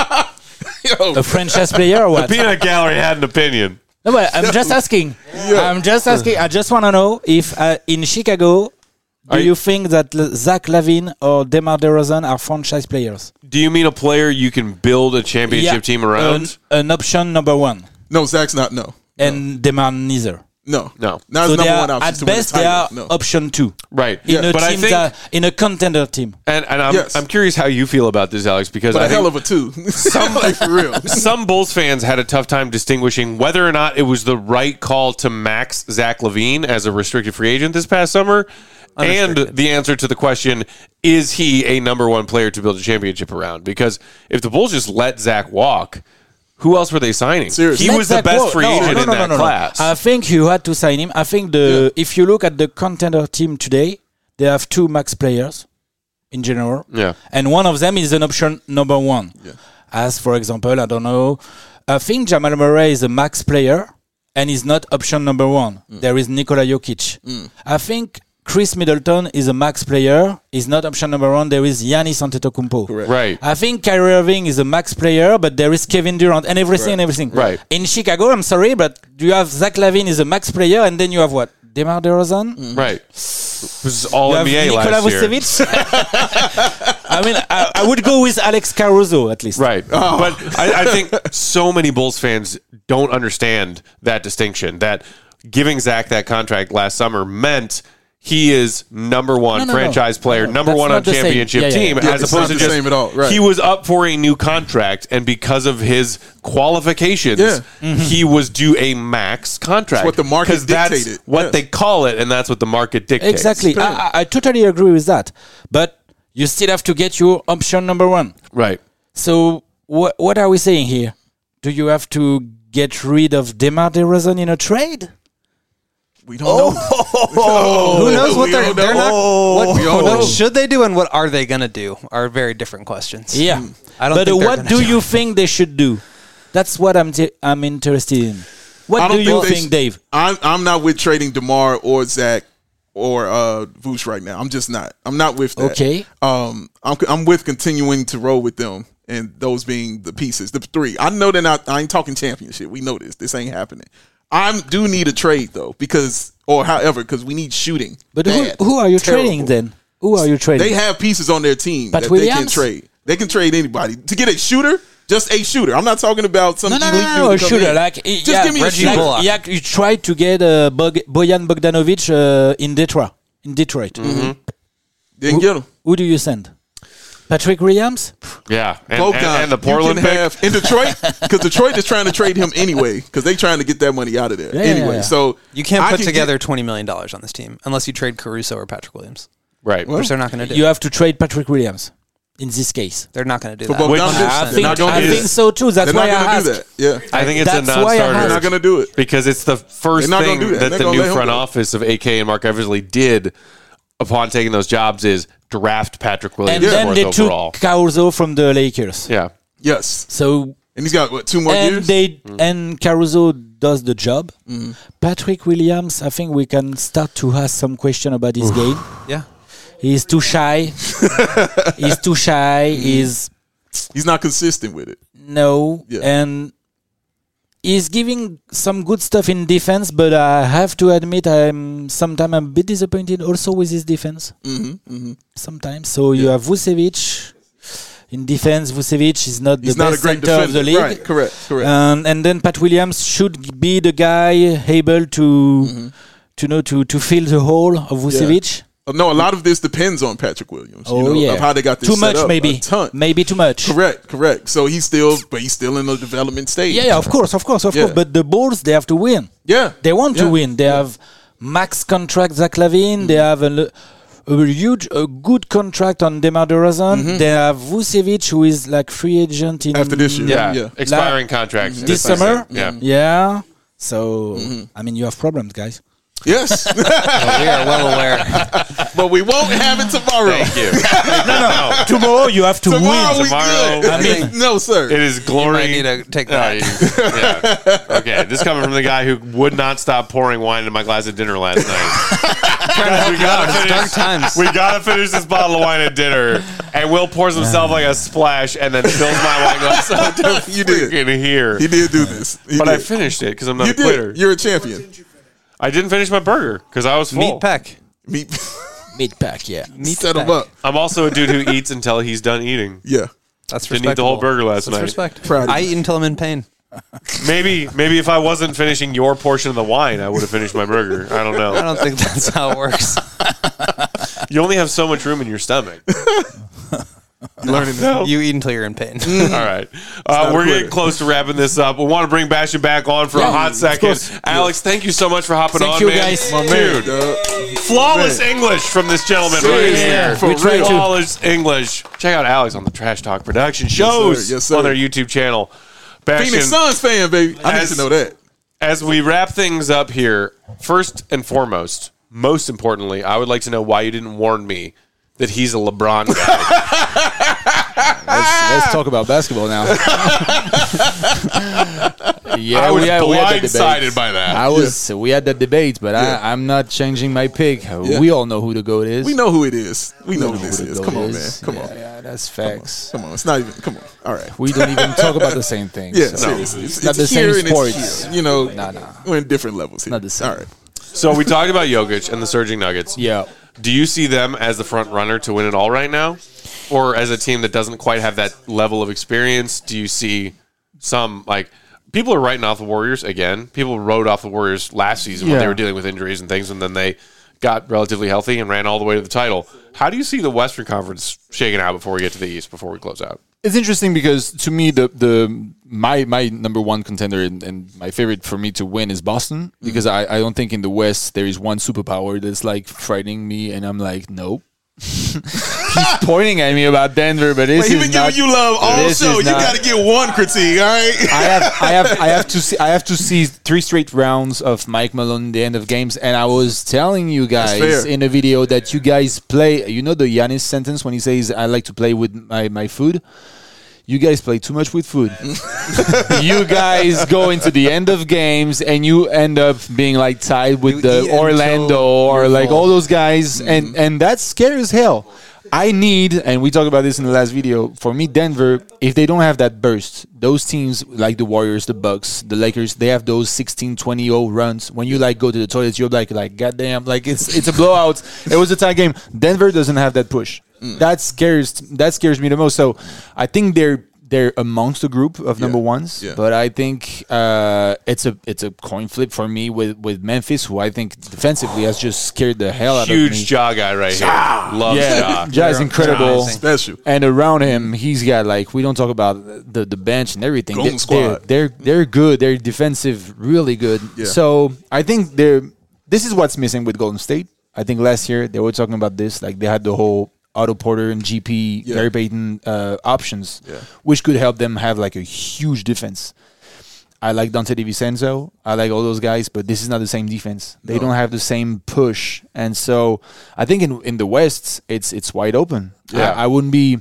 Yo, a franchise player or what? Peanut Gallery had an opinion. No, but I'm just asking. I'm just asking. I just want to know if uh, in Chicago. Do Are you think that L- Zach LaVine or DeMar DeRozan are franchise players? Do you mean a player you can build a championship team around? An, an option number one, no, Zach's not. No, and DeMar neither. no, No. Not So his they number are, one option at to win the best, they are title. No. option two Right. in a but I team think, that, in a contender team. and, and I'm, Yes. I'm curious how you feel about this, Alex, because But I a think hell of a two. Some like for real. some Bulls fans had a tough time distinguishing whether or not it was the right call to max Zach LaVine as a restricted free agent this past summer, and the answer to the question, is he a number one player to build a championship around? Because if the Bulls just let Zach walk, who else were they signing? Seriously. He Let was the Zach best walk. free No, agent no, in no, that no, no, no. class. I think you had to sign him. I think the if you look at the contender team today, they have two max players in general. Yeah. And one of them is an option number one. Yeah. As for example, I don't know, I think Jamal Murray is a max player and is not option number one. Mm. There is Nikola Jokic. I think Chris Middleton is a max player. Is not option number one. There is Giannis Antetokounmpo. Correct. Right. I think Kyrie Irving is a max player, but there is Kevin Durant and everything and everything. Right. In Chicago, I'm sorry, but you have Zach LaVine is a max player, and then you have what? DeMar DeRozan? Right. It was all You have N B A Nikola last year. Vucevic? I mean, I, I would go with Alex Caruso at least. Right. But I, I think so many Bulls fans don't understand that distinction, that giving Zach that contract last summer meant he is number one No, no, franchise no. player, No, number that's one not on the same. championship Yeah, yeah, team, yeah. as It's opposed not to the just same at all, right. he was up for a new contract, and because of his qualifications, Yeah. he was due a max contract. what the market 'Cause that's dictated. what Yeah. they call it, and that's what the market dictates. Exactly. I, I, I totally agree with that. But you still have to get your option number one. Right. So what what are we saying here? Do you have to get rid of DeMar DeRozan in a trade? We don't know. Who knows what we they're, don't they're know. not? What, We don't what know. should they do and what are they gonna do? Are very different questions. Yeah. I don't But think they're what gonna do do you think they should do? That's what I'm t- I'm interested in. What I do don't you they think, sh- Dave? I'm I'm not with trading DeMar or Zach or uh, Vooch right now. I'm just not. I'm not with that. Okay. Um, I'm I'm with continuing to roll with them and those being the pieces, the three. I know they're not. I ain't talking championship. We know this. This ain't happening. I do need a trade though, because or however, because we need shooting. But who, Bad. who are you Terrible. trading then? Who are you trading? They have pieces on their team Pat that they can Williams? trade. They can trade anybody to get a shooter. Just a shooter. I'm not talking about some no, no, elite no, dude no, to a come shooter. in. Like, Just yeah, give me a Reggie shooter. Bullock. Yeah, you tried to get uh, Bog- Bojan Bogdanovic uh, in Detroit. In Detroit. Mm-hmm. Didn't get him. Who do you send? Patrick Williams? Yeah. And, Both and, guys. and the You Portland can pick. have in Detroit, because Detroit is trying to trade him anyway, because they're trying to get that money out of there Yeah, anyway. yeah, yeah. So You can't I put can together get- twenty million dollars on this team unless you trade Caruso or Patrick Williams, Right. which they're not going to do. You have to trade Patrick Williams in this case. They're not going to do For that. Bogdanovic, Which- they're I not think, gonna I do think that. so too. That's They're why not I going to do asked. that. Yeah, I think it's That's a why I non-starter. asked. they're not going to do it. Because it's the first They're not thing gonna do that. that They're the gonna new let him front go. office of A K and Mark Eversley did upon taking those jobs is draft Patrick Williams And then fourth they overall. took Caruso from the Lakers. Yeah. Yes, So and he's got what two more and years. they and Caruso does the job. Patrick Williams, I think we can start to ask some question about his game. Yeah. He's too shy. He's too shy. He's He's not consistent with it. no, Yeah. and he's giving some good stuff in defense. But I have to admit, I'm sometimes I'm a bit disappointed also with his defense. Mm-hmm, mm-hmm. Sometimes, so you have Vucevic in defense. Vucevic is not He's the not a best great center defender. of the league. Right, correct, correct. Um, and then Pat Williams should be the guy able to Mm-hmm. to know to to fill the hole of Vucevic. Uh, no, a lot of this depends on Patrick Williams. Oh you know, yeah, of how they got this too set much up. maybe, A ton. maybe too much. Correct, correct. So he's still, but he's still in the development stage. Yeah, yeah, of course, of course, of Yeah. course. But the Bulls, they have to win. yeah. They want to Yeah. win. They have max contract Zach Lavine. They have a, a huge, a good contract on DeMar DeRozan. They have Vucevic, who is like free agent in After this year. Yeah. Yeah. Expiring contracts. this summer. Yeah. Yeah. So I mean, you have problems, guys. Yes, We are well aware. but we won't have it tomorrow. Thank you. Tomorrow you have to Tomorrow win. we Tomorrow. good. I mean- no, sir. It is You glory. might need to take No, that. you- yeah. Okay, this coming from the guy who would not stop pouring wine into my glass at dinner last night. we gotta It's finish. dark times. We gotta finish this bottle of wine at dinner. And Will pours himself like a splash and then fills my wine glass up to You did. freaking here. He did do this. He But did. I finished it because I'm not You a quitter. did. You're a champion. I didn't finish my burger because I was full. Meat Peck. Meet, Mid pack, yeah. Meat set him Peck. up. I'm also a dude who eats until he's done eating. Yeah. That's Didn't eat the whole burger last That's night. respect. Proud of I you. eat until I'm in pain. Maybe, maybe if I wasn't finishing your portion of the wine, I would have finished my burger. I don't I know. don't think that's how it works. You only have so much room in your stomach. Learning now. You eat until you're in pain. All right. Uh, not we're a getting quitter. close to wrapping this up. We want to bring Bastion back on for a Yeah, hot of second. course. Alex, thank you so much for hopping Thank on, you, man. guys. My Dude, Dog. flawless English from this gentleman right Seriously, here. for We try real. to- Flawless English. Check out Alex on the Trash Talk Production shows Yes, sir. on their YouTube channel. Bastion, Phoenix Suns fan, baby. I need As- to know that. as we wrap things up here, first and foremost, most importantly, I would like to know why you didn't warn me that he's a LeBron guy. Let's, let's talk about basketball now. yeah, I was we had, we had that blindsided debate. by that. I was. We had that debate, but Yeah. I, I'm not changing my pick. Yeah. We all know who the goat is. We know who it is. We know who who this the is. GOAT Come on, man. is. Come yeah, on. Yeah, that's facts. Come on. It's not even. Come on. All right. We don't even talk about the same thing. Yeah, so. seriously. It's, Not it's the same here and it's sports. here. You know, Nah, nah. we're in different levels here. Not the same. All right. So we talked about Jokic and the Surging Nuggets. Yeah. Do you see them as the front runner to win it all right now? or as a team that doesn't quite have that level of experience, do you see some like people are writing off the Warriors again? People wrote off the Warriors last season when Yeah. they were dealing with injuries and things, and then they got relatively healthy and ran all the way to the title. How do you see the Western Conference shaking out before we get to the East, before we close out? It's interesting because to me the the my my number one contender and, and my favorite for me to win is Boston because I, I don't think in the West there is one superpower that's like frightening me and I'm like nope. He's pointing at me about Denver, but this Wait, he is been not, giving you love all this show. is You not- got to get one critique, all right? I have, I have, I have to see, I have to see three straight rounds of Mike Malone, the end of games, and I was telling you guys fair. in a video that you guys play. You know the Giannis sentence when he says, "I like to play with my my food." You guys play too much with food. You guys go into the end of games and you end up being like tied with You the eat Orlando until or you're like full. all those guys, and and that's scary as hell. I need, and we talked about this in the last video. For me, Denver, if they don't have that burst, those teams like the Warriors, the Bucks, the Lakers, they have those sixteen twenty oh runs. When you like go to the toilets, you're like, like goddamn, like it's it's a blowout. It was a tie game. Denver doesn't have that push. That scares that scares me the most. So I think they're they're amongst the group of number ones. yeah. But I think uh, it's a it's a coin flip for me with, with Memphis, who I think defensively has just scared the hell out of me. Huge jaw guy right here. Loves Yeah, jaw. Ja is incredible. amazing. Special. And around him, he's got like we don't talk about the the bench and everything. Golden They- squad. They're, they're they're good. They're defensive, really good. Yeah. So I think they're. This is what's missing with Golden State. I think last year they were talking about this. Like they had the whole Otto Porter and G P, Yeah. Gary Payton uh, options, Yeah. which could help them have like a huge defense. I like Dante DiVincenzo. I like all those guys, but this is not the same defense. They don't have the same push, and so I think in in the West, it's it's wide open. Yeah. I, I wouldn't be.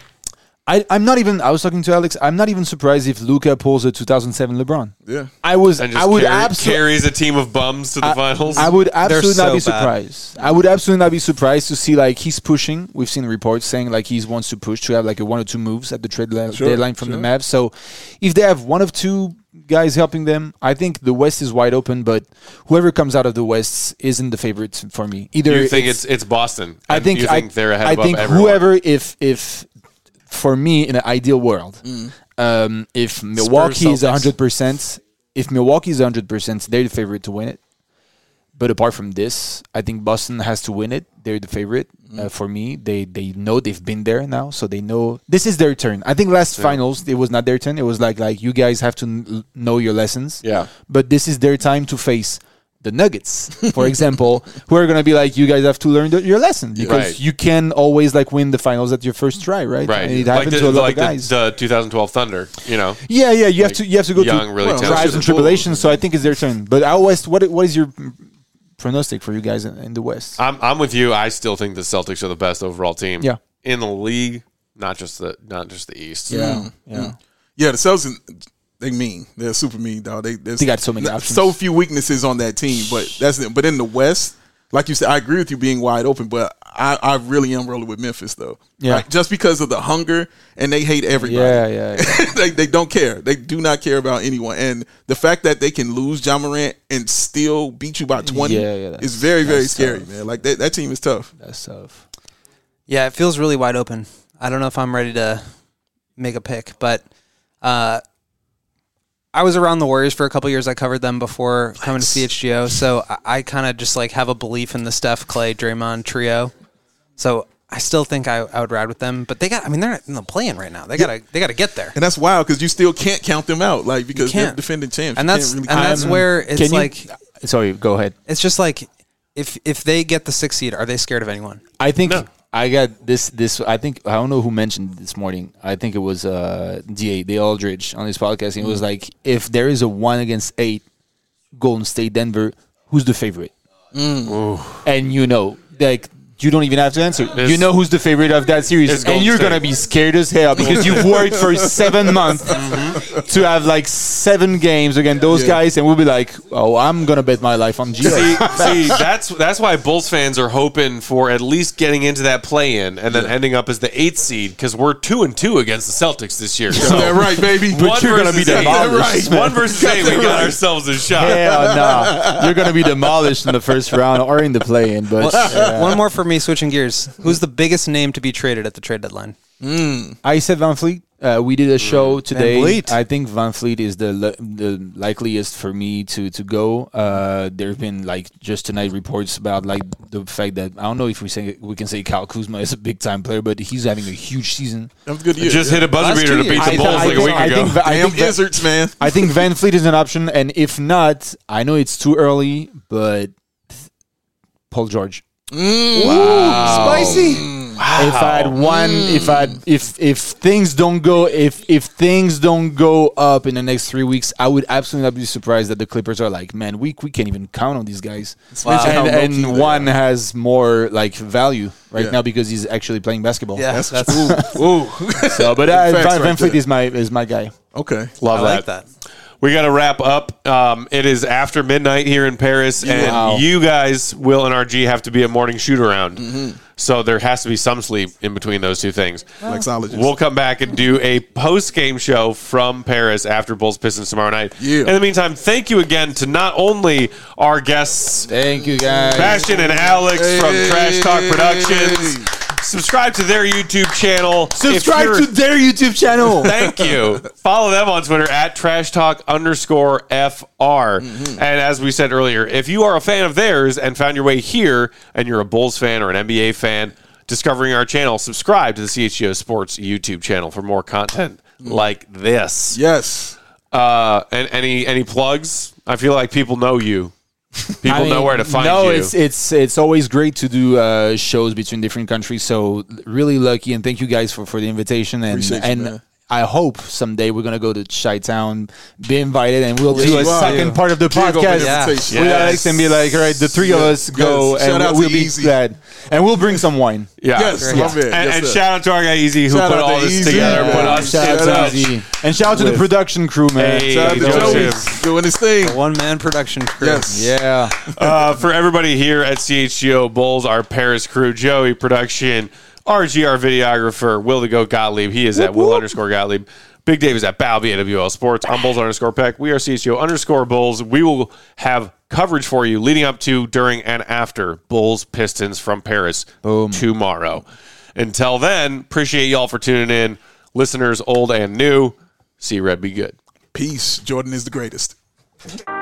I, I'm not even. I was talking to Alex. I'm not even surprised if Luka pulls a two thousand seven LeBron. Yeah. I was. And just I would carry- absolutely. carries a team of bums to the finals. I would absolutely not so be bad. surprised. I would absolutely not be surprised to see like he's pushing. We've seen reports saying like he wants to push to have like a one or two moves at the trade li- Sure, deadline from sure. the Mavs. So if they have one of two guys helping them, I think the West is wide open. But whoever comes out of the West isn't the favorite for me. Either you think it's it's Boston? I and think you think I, they're ahead I above think everyone. whoever if if for me in an ideal world, um, if Milwaukee is Celtics. one hundred percent, if Milwaukee is one hundred percent, they're the favorite to win it. But apart from this, I think Boston has to win it. They're the favorite uh, for me. They they know they've been there now, so they know this is their turn. I think last finals it was not their turn. It was like like you guys have to n- know your lessons. Yeah. But this is their time to face the Nuggets, for example, who are going to be like, you guys have to learn the, your lesson because Right. you can always like win the finals at your first try, right? Right, And it like, happened the, to a lot like of guys. the, the two thousand twelve Thunder. You know, yeah, yeah, you have like to you have to go young, through really Well, talented. trials and Bulls. tribulations. So I think it's their turn. But out west, what what is your pronostic for you guys in, in the West? I'm I'm with you. I still think the Celtics are the best overall team. Yeah. in the league, not just the not just the East. yeah, yeah. Yeah, the Celtics, they mean. They're super mean, dog. They, there's They got so many n- options. So few weaknesses on that team, but that's it. But in the West, like you said, I agree with you being wide open, but I, I really am rolling with Memphis, though. Yeah. Like, just because of the hunger, and they hate everybody. Yeah, yeah, yeah. they, they don't care. They do not care about anyone. And the fact that they can lose John Morant and still beat you by twenty Yeah, yeah, that's- is very, very that's scary, tough. man. Like, that, that team is tough. That's tough. Yeah, it feels really wide open. I don't know if I'm ready to make a pick, but uh, I was around the Warriors for a couple years. I covered them before coming to C H G O, so I, I kind of just like have a belief in the Steph, Clay, Draymond trio. So I still think I, I would ride with them, but they got. I mean, they're not in the play-in right now. They gotta they gotta get there, And that's wild because you still can't count them out, like, because they're can't. defending champs. and You that's can't and really that's count them. where it's Can you- like Sorry, go ahead. it's just like if if they get the sixth seed, are they scared of anyone? I think No. I got this. This I think I don't know who mentioned it this morning. I think it was uh, D A, Dale Aldridge, on his podcast. And it was like, if there is a one against eight, Golden State Denver, who's the favorite? And you know, like you don't even have to answer. It's- you know who's the favorite of that series, It's and Golden you're State. gonna be scared as hell because you've worked for seven months to have like seven games against those Yeah. guys, and we'll be like, oh, I'm gonna bet my life on G. See, see, that's that's why Bulls fans are hoping for at least getting into that play-in and then ending up as the eighth seed because we're two and two against the Celtics this year. So That's right, baby. one you're gonna versus be eight. demolished, One versus eight, we got ourselves a shot. Hell no, you're gonna be demolished in the first round or in the play-in. But yeah. One more for me, switching gears. Who's the biggest name to be traded at the trade deadline? I said Van Fleet. Uh, we did a show today. Vliet. I think Van Fleet is the li- the likeliest for me to to go. Uh, there have been like just tonight reports about like the fact that I don't know if we say we can say Kyle Kuzma is a big time player, but he's having a huge season. That was a good year. Just hit a buzzer Last beater two to beat years. the I Bulls th- I like a think- week I ago. think Va- I Damn think Va- Wizards, man. I think Van Fleet is an option, and if not, I know it's too early, but Paul George. Spicy. If I had one, if I had, if if things don't go, if if things don't go up in the next three weeks, I would absolutely not be surprised that the Clippers are like, man, we we can't even count on these guys. Mention how And, low-key and they one are. has more like value right Yeah. now because he's actually playing basketball. Yeah, That's, that's, ooh, ooh. So, but uh, Facts Van, right Van Fleet there. is my is my guy. Okay. Love I like that. We got to wrap up. Um, it is after midnight here in Paris, and Wow. you guys, Will and R G, have to be a morning shoot around. Mm-hmm. So there has to be some sleep in between those two things. Flexologist. We'll come back and do a post game show from Paris after Bulls Pistons tomorrow night. Yeah. In the meantime, thank you again to not only our guests, Thank you guys. Bastion and Alex from Hey. Trash Talk Productions. Subscribe to their YouTube channel. If Subscribe you're- to their YouTube channel. Thank you. Follow them on Twitter at Trash Talk underscore F R. Mm-hmm. And as we said earlier, if you are a fan of theirs and found your way here and you're a Bulls fan or an N B A fan, discovering our channel, subscribe to the C H G O Sports YouTube channel for more content like this. Yes. Uh, and any any plugs? I feel like people know you. People I mean, know where to find no, you. it's it's it's always great to do uh, shows between different countries. So really lucky, and thank you guys for, for the invitation. And Appreciate you, and man. I hope someday we're gonna go to Chi-Town, be invited, and we'll do you a are. second Yeah. part of the Big open podcast invitation. with Yes. Alex and be like, all right, the three of Yeah. us go, Yes. and Shout out we'll to be Easy. glad, and we'll bring some wine. yeah. Yes. And, Love it. Yes, and sir. shout out to our guy Easy who Shout put out all to this Easy. together, Yeah. put us Shout in out to touch. Easy. And shout out to the With- production crew, man. Hey, Shout out to Joseph. Joey doing his thing. One man production crew. Yes. Yeah. Uh, for everybody here at C H G O Bulls, our Paris crew, Joey Production, R G, our videographer, Will the Goat Gottlieb. He is at Will underscore Gottlieb. Big Dave is at Bow, B A W L Sports. I'm Bulls underscore Peck. We are C H G O underscore Bulls. We will have coverage for you leading up to, during, and after Bulls Pistons from Paris tomorrow. Until then, appreciate y'all for tuning in. Listeners old and new, see Red be good. Peace. Jordan is the greatest.